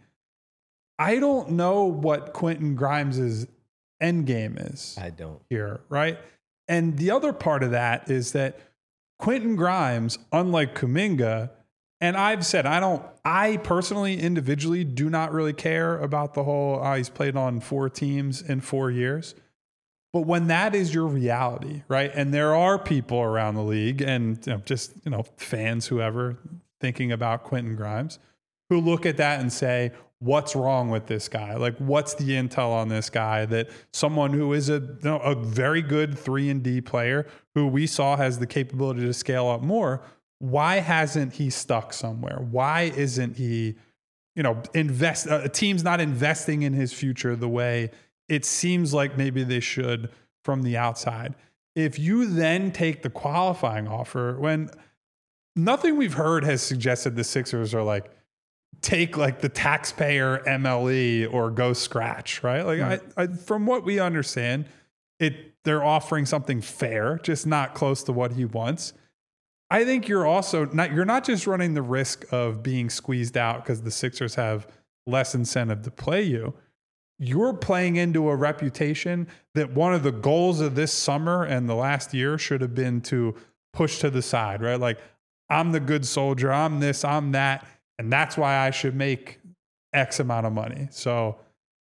I don't know what Quentin Grimes' end game is. I don't. Here, right? And the other part of that is that Quentin Grimes, unlike Kuminga, and I've said, I don't, I personally, individually, do not really care about the whole, oh, he's played on four teams in four years. But when that is your reality, right? And there are people around the league and you know, just, you know, fans, whoever, thinking about Quentin Grimes, who look at that and say, what's wrong with this guy? Like, what's the intel on this guy that someone who is a, you know, a very good three and D player who we saw has the capability to scale up more, why hasn't he stuck somewhere? Why isn't he, you know, invest? A team's not investing in his future the way it seems like maybe they should from the outside. If you then take the qualifying offer, when nothing we've heard has suggested the Sixers are like, take like the taxpayer M L E or go scratch, right? Like mm. I, I, from what we understand, it they're offering something fair, just not close to what he wants. I think you're also not, you're not just running the risk of being squeezed out because the Sixers have less incentive to play you. You're playing into a reputation that one of the goals of this summer and the last year should have been to push to the side, right? Like, I'm the good soldier, I'm this, I'm that, and that's why I should make X amount of money. So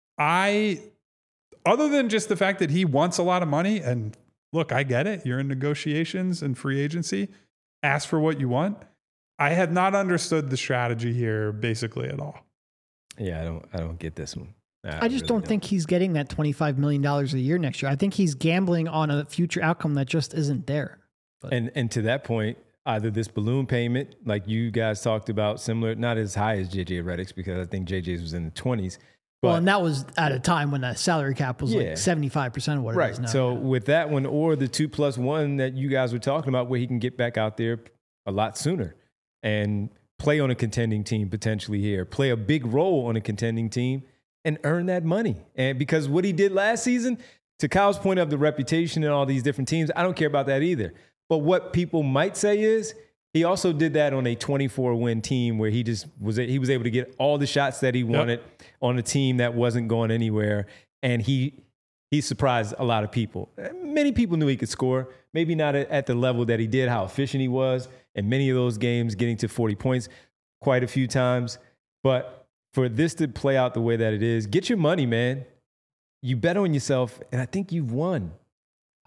I, other than just the fact that he wants a lot of money, and look, I get it, you're in negotiations and free agency, ask for what you want. I have not understood the strategy here basically at all. Yeah, I don't I don't get this one. I, I just really don't, don't think he's getting that twenty-five million dollars a year next year. I think he's gambling on a future outcome that just isn't there. But. And and to that point, either this balloon payment, like you guys talked about, similar, not as high as J J Redick's, because I think J J's was in the twenties. But, well, and that was at a time when the salary cap was yeah. like seventy-five percent of what right. it is now. So yeah. with that one, or the two plus one that you guys were talking about, where he can get back out there a lot sooner and play on a contending team potentially here, play a big role on a contending team and earn that money. And because what he did last season, to Kyle's point of the reputation and all these different teams, I don't care about that either. But what people might say is he also did that on a twenty-four win team where he just was, he was able to get all the shots that he wanted yep. on a team that wasn't going anywhere. And he, he surprised a lot of people. Many people knew he could score, maybe not at the level that he did, how efficient he was in many of those games, getting to forty points quite a few times. But for this to play out the way that it is, get your money, man. You bet on yourself, and I think you've won.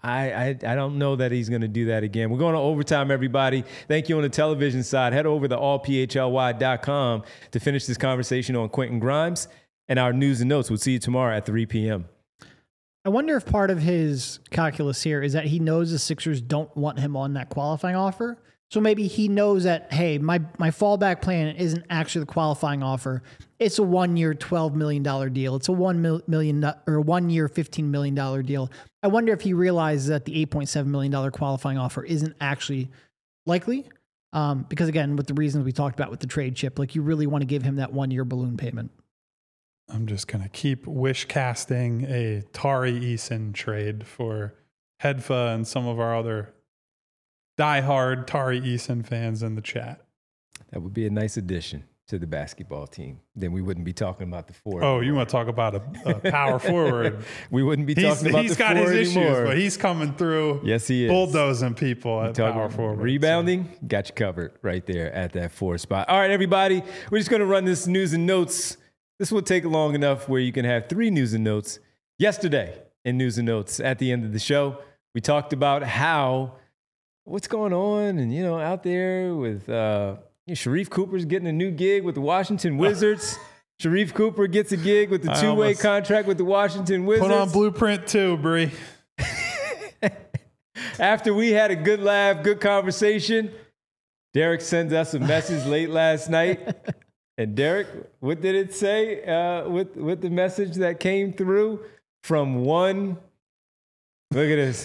I, I I don't know that he's going to do that again. We're going to overtime, everybody. Thank you on the television side. Head over to all p h l y dot com to finish this conversation on Quentin Grimes and our news and notes. We'll see you tomorrow at three p.m. I wonder if part of his calculus here is that he knows the Sixers don't want him on that qualifying offer. So maybe he knows that, hey, my, my fallback plan isn't actually the qualifying offer. It's a one-year, twelve million dollars deal. It's a one million or one-year, fifteen million dollars deal. I wonder if he realizes that the eight point seven million dollars qualifying offer isn't actually likely. Um, because again, with the reasons we talked about with the trade chip, like you really want to give him that one-year balloon payment. I'm just going to keep wish casting a Tari Eason trade for Hedfa and some of our other diehard Tari Eason fans in the chat. That would be a nice addition to the basketball team. Then we wouldn't be talking about the four. Oh, you want to talk about a, a power forward? We wouldn't be he's, talking about he's the got four his anymore. issues, but he's coming through. Yes, he is. Bulldozing people at Talking power forward. Rebounding, so. Got you covered right there at that four spot. All right, everybody, we're just going to run this news and notes. This will take long enough where you can have three news and notes. Yesterday in news and notes at the end of the show, we talked about how what's going on and, you know, out there with uh, you know, Sharif Cooper's getting a new gig with the Washington Wizards. Sharif Cooper gets a gig with the two-way contract with the Washington Wizards. Put on Blueprint too, Bree. After we had a good laugh, good conversation, Derek sends us a message late last night. And Derek, what did it say uh, with, with the message that came through from one? Look at this.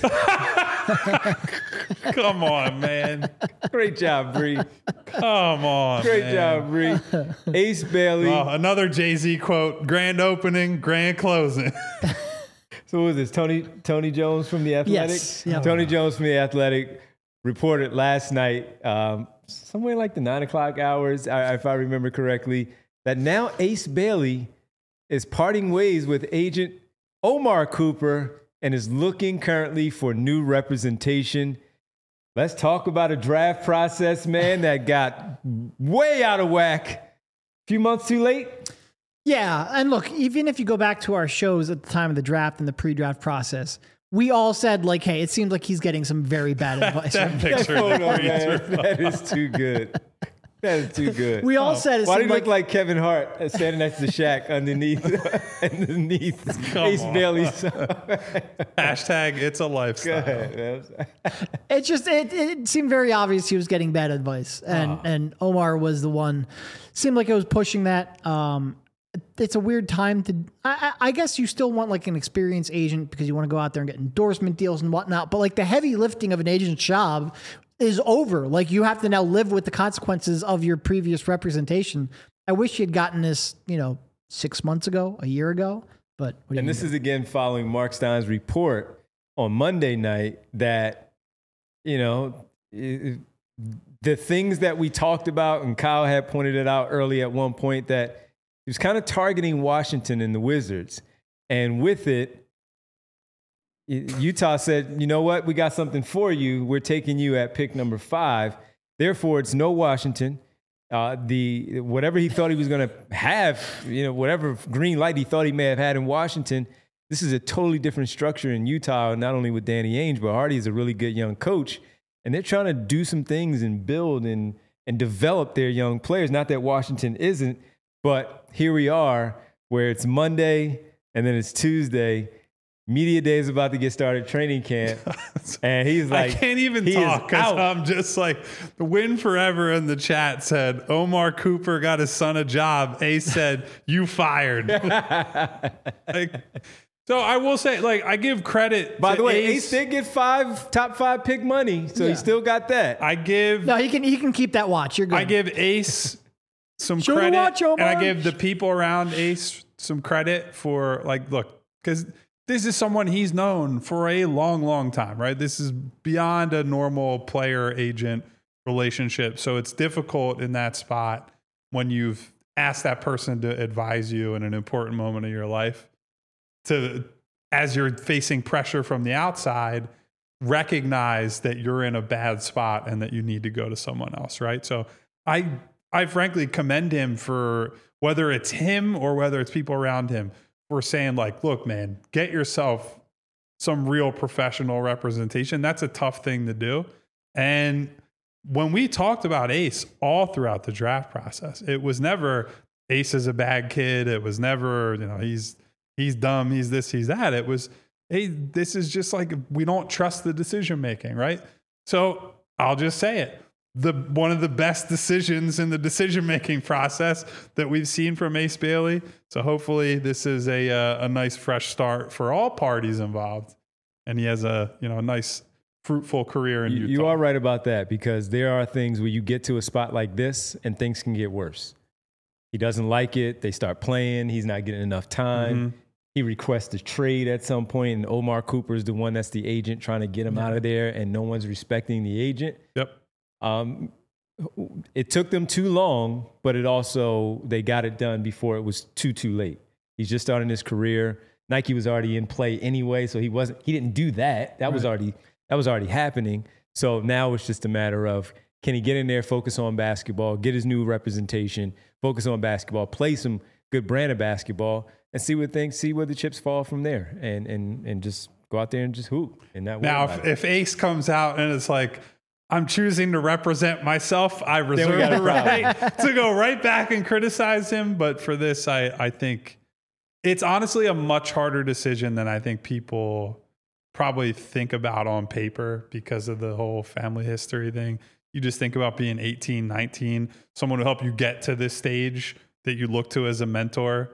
Come on, man. Great job, Bree. Come on, Great man. job, Bree. Ace Bailey. Oh, another Jay-Z quote, grand opening, grand closing. So what was this? Tony Tony Jones from The Athletic? Yes. Yep. Tony Jones from The Athletic reported last night, um, somewhere like the nine o'clock hours, I, if I remember correctly, that now Ace Bailey is parting ways with agent Omar Cooper and is looking currently for new representation. Let's talk about a draft process, man, that got way out of whack. A few months too late? Yeah, and look, even if you go back to our shows at the time of the draft and the pre-draft process, we all said, like, hey, it seems like he's getting some very bad advice. That right? picture. That photo, man, that is too good. That is too good. We all said it Why do seemed you like, look like Kevin Hart uh, standing next to Shaq underneath underneath Come Ace on. Bailey's? Hashtag it's a Go lifestyle. ahead, man. it just it, it seemed very obvious he was getting bad advice, and Ah. and Omar was the one. Seemed like it was pushing that. Um, it's a weird time to. I, I I guess you still want like an experienced agent because you want to go out there and get endorsement deals and whatnot. But like the heavy lifting of an agent's job is over. Like you have to now live with the consequences of your previous representation. I wish you had gotten this, you know, six months ago, a year ago. But what do And you this do? is again following Mark Stein's report on Monday night that, you know, it, the things that we talked about, and Kyle had pointed it out early at one point, that he was kind of targeting Washington and the Wizards. And with it, Utah said, you know what? We got something for you. We're taking you at pick number five. Therefore, it's no Washington. Uh, the whatever he thought he was going to have, you know, whatever green light he thought he may have had in Washington, this is a totally different structure in Utah, not only with Danny Ainge, but Hardy is a really good young coach. And they're trying to do some things and build and, and develop their young players. Not that Washington isn't, but here we are where it's Monday and then it's Tuesday. Media day is about to get started, training camp. And he's like, I can't even he talk is because out. I'm just like, the Win Forever in the chat said, Omar Cooper got his son a job. Ace said, you fired. Like, so I will say, like, I give credit By to the way, Ace. Ace did get five top five pick money, so Yeah. he still got that. I give No, he can he can keep that watch. You're good. I give Ace some Show the credit, watch, and I Omar. give the people around Ace some credit for, like, look, because this is someone he's known for a long, long time, right? This is beyond a normal player-agent relationship, so it's difficult in that spot when you've asked that person to advise you in an important moment of your life to, as you're facing pressure from the outside, recognize that you're in a bad spot and that you need to go to someone else, right? So I I frankly commend him for, whether it's him or whether it's people around him, for saying, like, look, man, get yourself some real professional representation. That's a tough thing to do. And when we talked about Ace all throughout the draft process, it was never Ace is a bad kid. It was never, you know, he's he's dumb, he's this, he's that. It was, hey, this is just like, we don't trust the decision making, right? So I'll just say it. The one of the best decisions in the decision-making process that we've seen from Ace Bailey. So hopefully this is a uh, a nice fresh start for all parties involved, and he has a you know a nice fruitful career in you, Utah. You are right about that, because there are things where you get to a spot like this and things can get worse. He doesn't like it. They start playing. He's not getting enough time. Mm-hmm. He requests a trade at some point, and Omar Cooper is the one that's the agent trying to get him yeah. out of there, and no one's respecting the agent. Yep. Um, it took them too long, but it also, they got it done before it was too, too late. He's just starting his career. Nike was already in play anyway, so he wasn't, he didn't do that. That right. was already, that was already happening. So now it's just a matter of, can he get in there, focus on basketball, get his new representation, focus on basketball, play some good brand of basketball, and see what things, see where the chips fall from there, and and and just go out there and just hoop. And that now, if, if Ace comes out and it's like, I'm choosing to represent myself, I reserve the right to go right back and criticize him. But for this, I, I think it's honestly a much harder decision than I think people probably think about on paper because of the whole family history thing. You just think about being eighteen, nineteen, someone who helped you get to this stage that you look to as a mentor.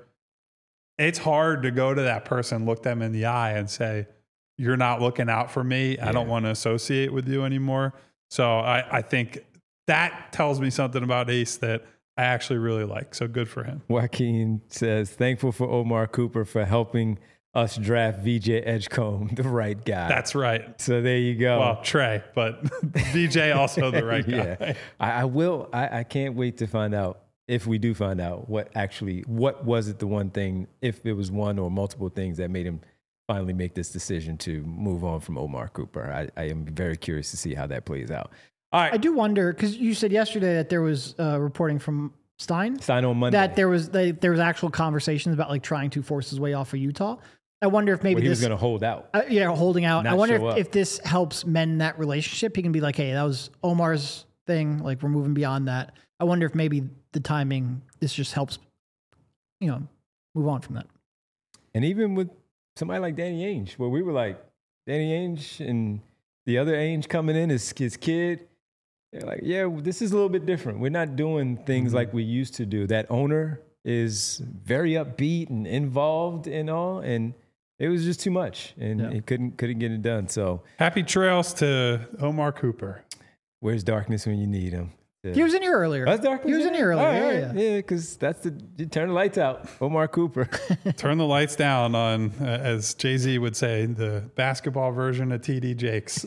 It's hard to go to that person, look them in the eye and say, you're not looking out for me. Yeah. I don't want to associate with you anymore. So I, I think that tells me something about Ace that I actually really like. So good for him. Joaquin says, thankful for Omar Cooper for helping us draft V J Edgecombe, the right guy. That's right. So there you go. Well, Trey, but V J also the right guy. Yeah. I, I will. I, I can't wait to find out, if we do find out, what actually, what was it the one thing, if it was one or multiple things that made him finally make this decision to move on from Omar Cooper. I, I am very curious to see how that plays out. All right. I do wonder, because you said yesterday that there was uh, reporting from Stein. Stein on Monday. That there was they, there was actual conversations about like trying to force his way off of Utah. I wonder if maybe well, he this, was going to hold out. Uh, yeah, holding out. I wonder if, if this helps mend that relationship. He can be like, hey, that was Omar's thing. Like, we're moving beyond that. I wonder if maybe the timing, this just helps, you know, move on from that. And even with somebody like Danny Ainge, where we were like, Danny Ainge and the other Ainge coming in as his kid, they're like, yeah, this is a little bit different. We're not doing things mm-hmm. like we used to do. That owner is very upbeat and involved and all, and it was just too much, and yeah. it couldn't couldn't get it done. So happy trails to Omar Cooper. Where's darkness when you need him? Yeah. He was in here earlier. That's darkness. He was in here earlier. Right. Yeah, yeah, because yeah, that's the you turn the lights out. Omar Cooper. Turn the lights down on, uh, as Jay-Z would say, the basketball version of T D Jakes.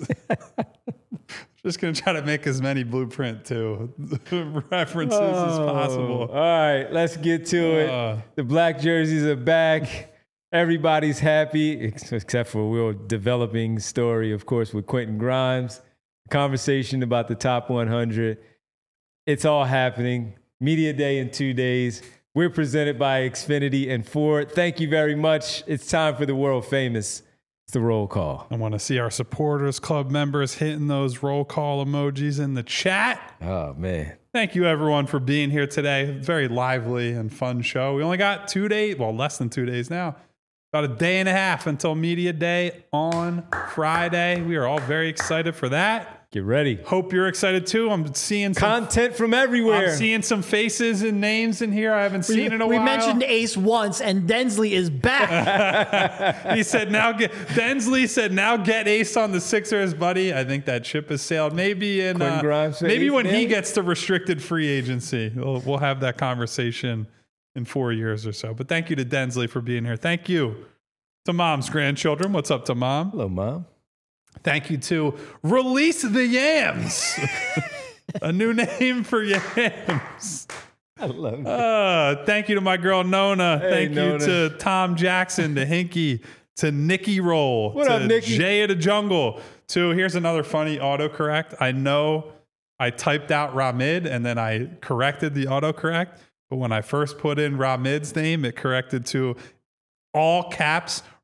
Just going to try to make as many Blueprint two references oh, as possible. All right, let's get to uh, it. The black jerseys are back. Everybody's happy, except for we're developing story, of course, with Quentin Grimes. Conversation about the top one hundred. It's all happening. Media Day in two days. We're presented by Xfinity and Ford. Thank you very much. It's time for the world famous. It's the roll call. I want to see our supporters club members hitting those roll call emojis in the chat. Oh, man. Thank you, everyone, for being here today. Very lively and fun show. We only got two days, well, less than two days now. About a day and a half until Media Day on Friday. We are all very excited for that. Get ready. Hope you're excited too. I'm seeing some, content from everywhere. I'm seeing some faces and names in here I haven't seen we, in a we while. We mentioned Ace once, and Densley is back. He said, "Now get." Densley said, "Now get Ace on the Sixers, buddy." I think that ship has sailed. Maybe in uh, Grimes maybe Ace when man? he gets to restricted free agency, we'll, we'll have that conversation in four years or so. But thank you to Densley for being here. Thank you to Mom's grandchildren. What's up to Mom? Hello, Mom. Thank you to Release the Yams, a new name for Yams. I love it. Uh, thank you to my girl Nona. Hey, thank Nona. you to Tom Jackson, to Hinky, to Nikki Roll, what to up, Nikki? Jay of the Jungle. To here's another funny autocorrect. I know I typed out Ramid and then I corrected the autocorrect, but when I first put in Ramid's name, it corrected to all caps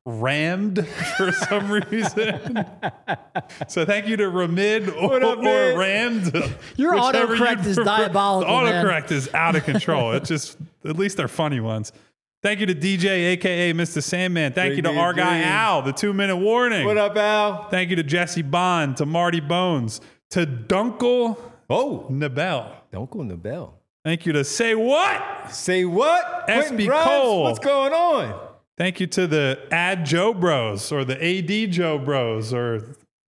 rammed for some reason. So thank you to Ramid or, What up, or man? Rammed. Your whichever autocorrect you'd is prefer. diabolical, The man. autocorrect is out of control. It's just, at least they're funny ones. Thank you to D J, a k a. Mister Sandman. Thank Great you to day, our guy Dream. Al, the two-minute warning. What up, Al? Thank you to Jesse Bond, to Marty Bones, to Dunkel Oh, Nabel. don't go in the bell. Thank you to Say What? Say what? S Quentin B Grimes, Cole. what's going on? Thank you to the Ad Joe Bros or the A D Joe Bros or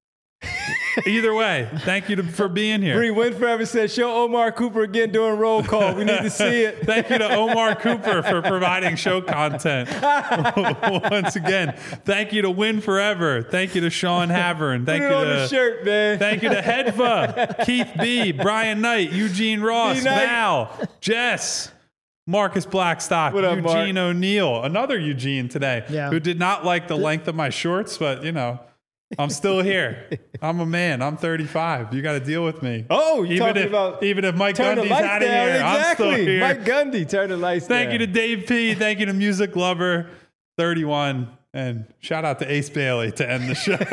either way. Thank you to, for being here. Bree Win Forever says, show Omar Cooper again doing roll call. We need to see it. Thank you to Omar Cooper for providing show content. Once again, thank you to Win Forever. Thank you to Sean Havern. Thank Put you it on to the shirt, man. Thank you to Hedva, Keith B, Brian Knight, Eugene Ross, B-Knight. Val, Jess, Marcus Blackstock, What up, Eugene Mark? O'Neill, another Eugene today, Yeah. who did not like the length of my shorts, but you know, I'm still here. I'm a man. I'm thirty-five. You got to deal with me. Oh, you're even talking if, about even if Mike turn the Gundy's lights out of down. here, I'm Exactly. still here. Mike Gundy, turn the lights Thank down. you to Dave P. Thank you to Music Lover thirty-one. And shout out to Ace Bailey to end the show.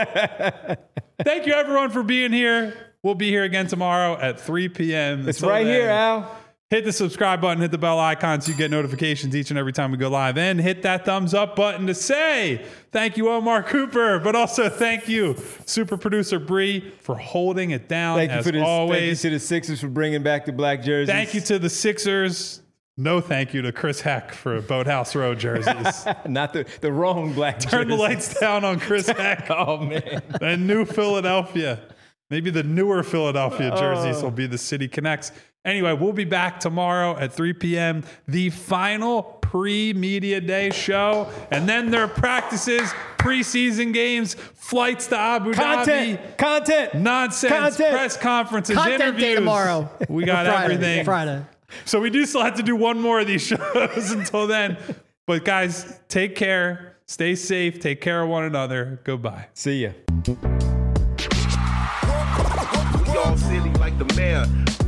Thank you, everyone, for being here. We'll be here again tomorrow at three p.m. It's Until right then, here, Al. Hit the subscribe button, hit the bell icon so you get notifications each and every time we go live. And hit that thumbs up button to say thank you, Omar Cooper, but also thank you, super producer Bree, for holding it down Thank you as for this. always. Thank you to the Sixers for bringing back the black jerseys. Thank you to the Sixers. No thank you to Chris Heck for Boathouse Row jerseys. Not the, the wrong black Turn the jerseys. lights down on Chris Heck. Oh, man. And New Philadelphia. Maybe the newer Philadelphia jerseys will be the City Connects. Anyway, we'll be back tomorrow at three p.m. The final pre-media day show. And then there are practices, preseason games, flights to Abu Content. Dhabi, Content. nonsense, Content. press conferences, Content interviews. day tomorrow. We got Friday, everything. Friday. So we do still have to do one more of these shows until then. But guys, take care. Stay safe. Take care of one another. Goodbye. See ya. We all silly like the mayor.